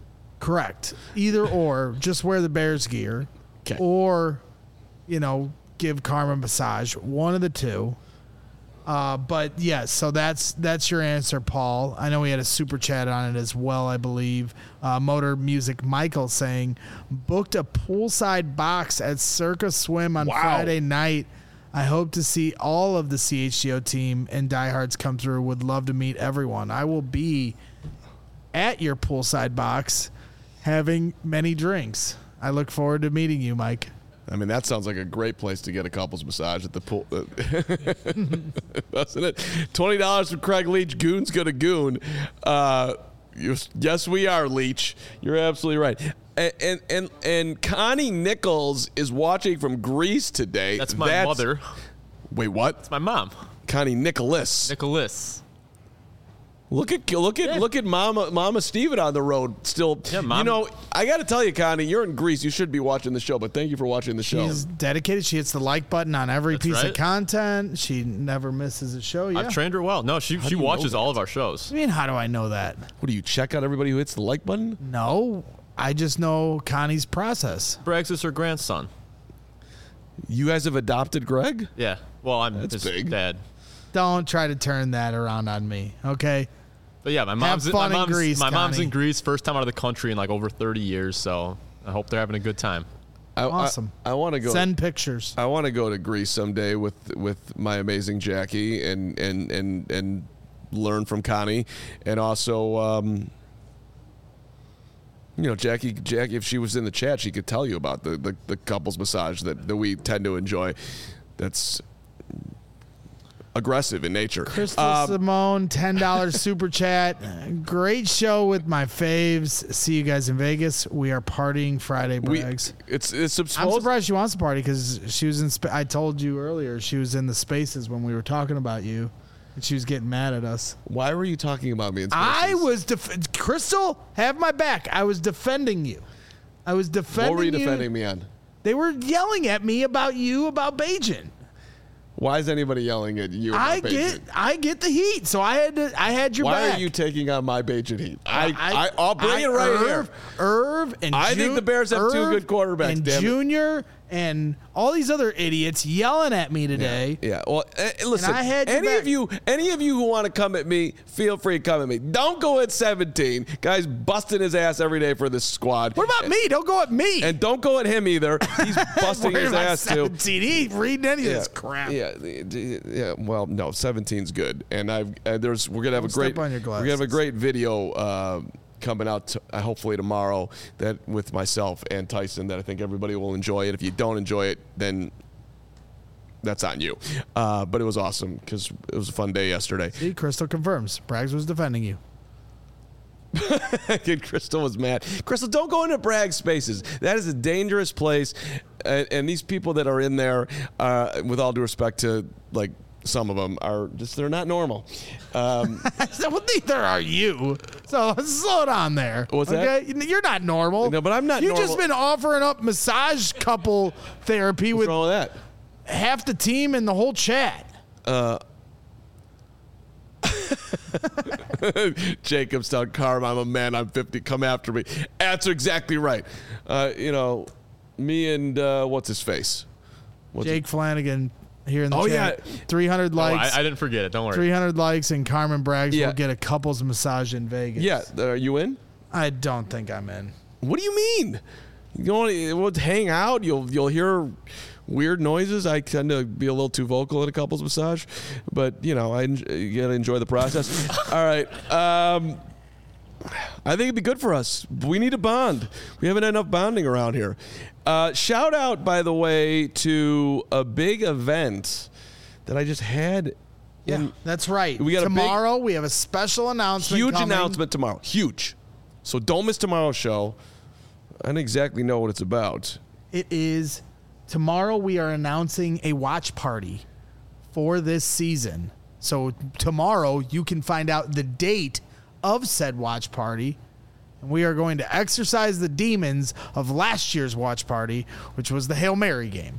Correct. Either or, just wear the Bears gear. Okay. Or, you know, give Carmen a massage. One of the two. Uh, but yes, so that's that's your answer, Paul. I know we had a super chat on it as well, I believe. Uh, Motor Music Michael saying, booked a poolside box at Circa Swim on Wow. Friday night. I hope to see all of the C H G O team and diehards come through. Would love to meet everyone. I will be at your poolside box having many drinks. I look forward to meeting you, Mike. I mean, that sounds like a great place to get a couples massage at the pool. Doesn't it? twenty dollars from Craig Leach. Goon's gonna goon. Uh, you, yes, we are, Leach. You're absolutely right. And, and and and Connie Nichols is watching from Greece today. That's my mother. Wait, what? It's my mom, Connie Nicholas. Nicholas. Look at look at Yeah. look at Mama Mama Steven on the road still. Yeah, Mom. You know, I got to tell you, Connie, you're in Greece. You should be watching the show, but thank you for watching the show. She's dedicated. She hits the like button on every That's piece of right. content. She never misses a show. Yeah. I've trained her well. No, she do she you know watches that? all of our shows. I mean, how do I know that? What do you check out everybody who hits the like button? No, I just know Connie's process. Braggs is her grandson. You guys have adopted Greg? Yeah. Well, I'm That's his big. dad. Don't try to turn that around on me, okay? But yeah, my mom's fun my in mom's, Greece, my mom's Connie. in Greece, first time out of the country in like over thirty years. So I hope they're having a good time. I, Awesome. I, I want to go. Send pictures. I want to go to Greece someday with with my amazing Jackie and and and and learn from Connie, and also. Um, You know, Jackie, Jackie, if she was in the chat, she could tell you about the, the, the couples massage that, that we tend to enjoy. That's aggressive in nature. Crystal Um, Simone, ten dollars super chat. Great show with my faves. See you guys in Vegas. We are partying Friday, we, Braggs. it's it's I'm supposed. surprised she wants to party because she was in. Sp- I told you earlier she was in the spaces when we were talking about you, and she was getting mad at us. Why were you talking about me in I spaces? was def- Crystal, have my back. I was defending you. I was defending. What were you defending me on? They were yelling at me about you about Bajan. Why is anybody yelling at you? I about get, Bajan? I get the heat, so I had to. I had your Why back. are you taking on my Bajan heat? I, I, I'll bring I- it right Irv, here. Irv and I think Ju- the Bears have two Irv good quarterbacks, And damn it. Junior and all these other idiots yelling at me today. Yeah. Well, uh, listen. I had your any back. of you, any of you who want to come at me, feel free to come at me. Don't go at seventeen. Guys busting his ass every day for this squad. What about me? Don't go at me. And don't go at him either. He's busting Worried his about ass too. seventeen. He ain't reading any of this crap. Yeah, the- the- yeah. Well, no, seventeen's good, and I've uh, there's we're gonna have Don't a great step on your we're gonna have a glasses. great video uh, coming out to, uh, hopefully tomorrow that with myself and Tyson that I think everybody will enjoy it. If you don't enjoy it, then that's on you. Uh, but it was awesome because it was a fun day yesterday. See, Crystal confirms. Braggs was defending you. And Crystal was mad. Crystal, don't go into brag spaces. That is a dangerous place. And, and these people that are in there, uh, with all due respect to like some of them, are just they're not normal. Um, So, well, neither are you. So slow down there. What's okay? that? You're not normal. No, but I'm not You've normal. just been offering up massage couple therapy what's with wrong with that? half the team and the whole chat. Jacob's telling Carm, I'm a man, I'm fifty, come after me. That's exactly right. Uh, you know, me and uh, what's his face? What's Jake Flanagan here in the Oh, chat. yeah. three hundred Oh, likes. I, I didn't forget it. Don't worry. three hundred likes and Carmen Braggs Yeah. will get a couples massage in Vegas. Yeah, are you in? I don't think I'm in. What do you mean? You going we'll hang out, you'll you'll hear weird noises. I tend to be a little too vocal at a couples massage, but you know, I en- you gotta enjoy the process. All right. Um, I think it'd be good for us. We need a bond. We haven't had enough bonding around here. Uh, shout out, by the way, to a big event that I just had. Yeah, in- that's right. We got a big- Tomorrow we have a special announcement. huge coming. announcement tomorrow. Huge. So don't miss tomorrow's show. I don't exactly know what it's about. It is tomorrow. We are announcing a watch party for this season. So tomorrow you can find out the date of said watch party. And we are going to exercise the demons of last year's watch party, which was the Hail Mary game.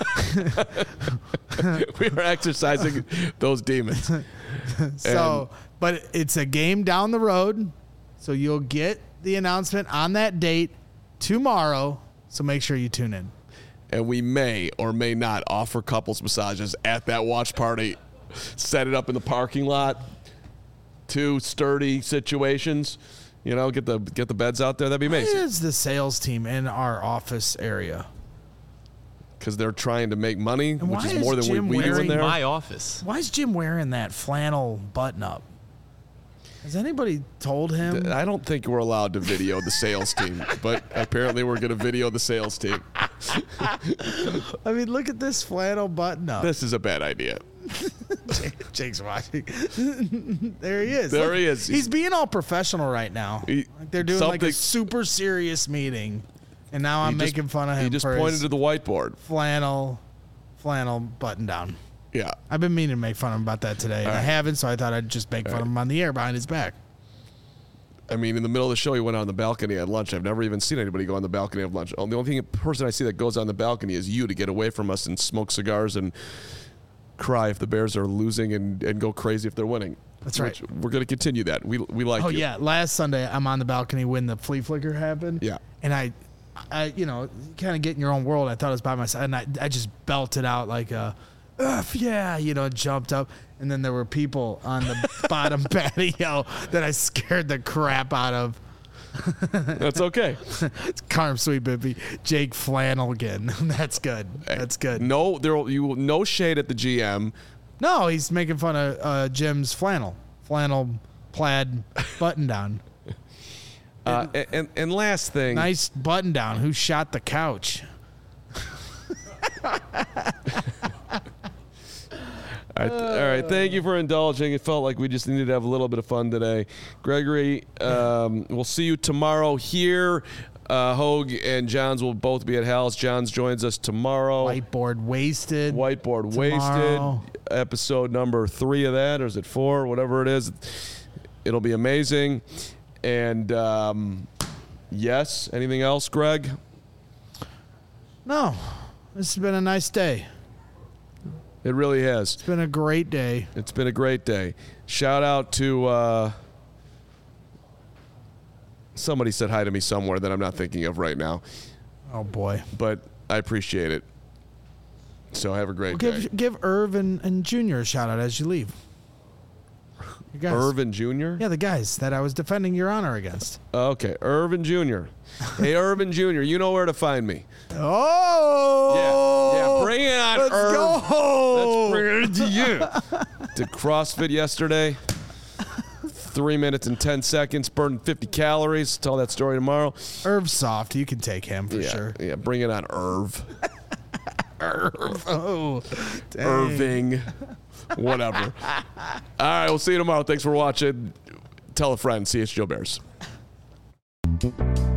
We are exercising those demons. So, but it's a game down the road. So you'll get the announcement on that date tomorrow, so make sure you tune in. And we may or may not offer couples massages at that watch party. Set it up in the parking lot. Two sturdy situations. You know, get the get the beds out there. That'd be amazing. Why is the sales team in our office area? Because they're trying to make money, And which why is is more than Jim we, we do in wearing there. My office. Why is Jim wearing that flannel button-up? Has anybody told him? I don't think we're allowed to video the sales team, but apparently we're going to video the sales team. I mean, look at this flannel button-up. This is a bad idea. Jake's watching. There he is. There Look, he is. He's being all professional right now. He- like they're doing like a something- super serious meeting, and now I'm He just- making fun of him He just for pointed his to the whiteboard. flannel, flannel button down. Yeah. I've been meaning to make fun of him about that today, and I right. haven't, so I thought I'd just make fun of him on the air behind his back. I mean, in the middle of the show, he went out on the balcony at lunch. I've never even seen anybody go on the balcony at lunch. The only thing, person I see that goes on the balcony is you to get away from us and smoke cigars and cry if the Bears are losing and, and go crazy if they're winning. That's Which right. We're going to continue that. We we like Oh you. yeah, last Sunday I'm on the balcony when the flea flicker happened. Yeah. and I, I you know, kind of get in your own world. I thought it was by myself, and I I just belted out like a, Ugh, yeah, you know, jumped up, and then there were people on the bottom patio that I scared the crap out of. That's okay. It's Carm Sweet Bippy, Jake Flannelgan. That's good. That's good. No, there will- you will- no shade at the G M. No, he's making fun of uh, Jim's flannel, flannel plaid button down. Uh, and, and and last thing, Nice button down. Who shot the couch? All right, all right, thank you for indulging. It felt like we just needed to have a little bit of fun today. Gregory, um, we'll see you tomorrow here. Uh, Hogue and Johns will both be at Hal's. Johns joins us tomorrow. Whiteboard wasted. Whiteboard tomorrow. Wasted. Episode number three of that, or is it four? Whatever it is. It'll be amazing. And um, yes, anything else, Greg? No, this has been a nice day. It really has. It's been a great day. It's been a great day. Shout out to uh, somebody said hi to me somewhere that I'm not thinking of right now, Oh boy. but I appreciate it. So have a great Well, day. give give Irv and, and Junior a shout out as you leave. You guys. Irvin Junior? Yeah, the guys that I was defending your honor against. Okay, Irvin Junior Hey, Irvin Junior, you know where to find me. Oh, Yeah, yeah, bring it on, let's Irv. go. Let's bring it into you. Did CrossFit yesterday. Three minutes and ten seconds, burned fifty calories. Tell that story tomorrow. Irv's soft. You can take him for yeah, sure. Yeah, bring it on, Irv. Irv. Oh, dang. Irving. Whatever. All right, we'll see you tomorrow. Thanks for watching. Tell a friend. C H G O Bears.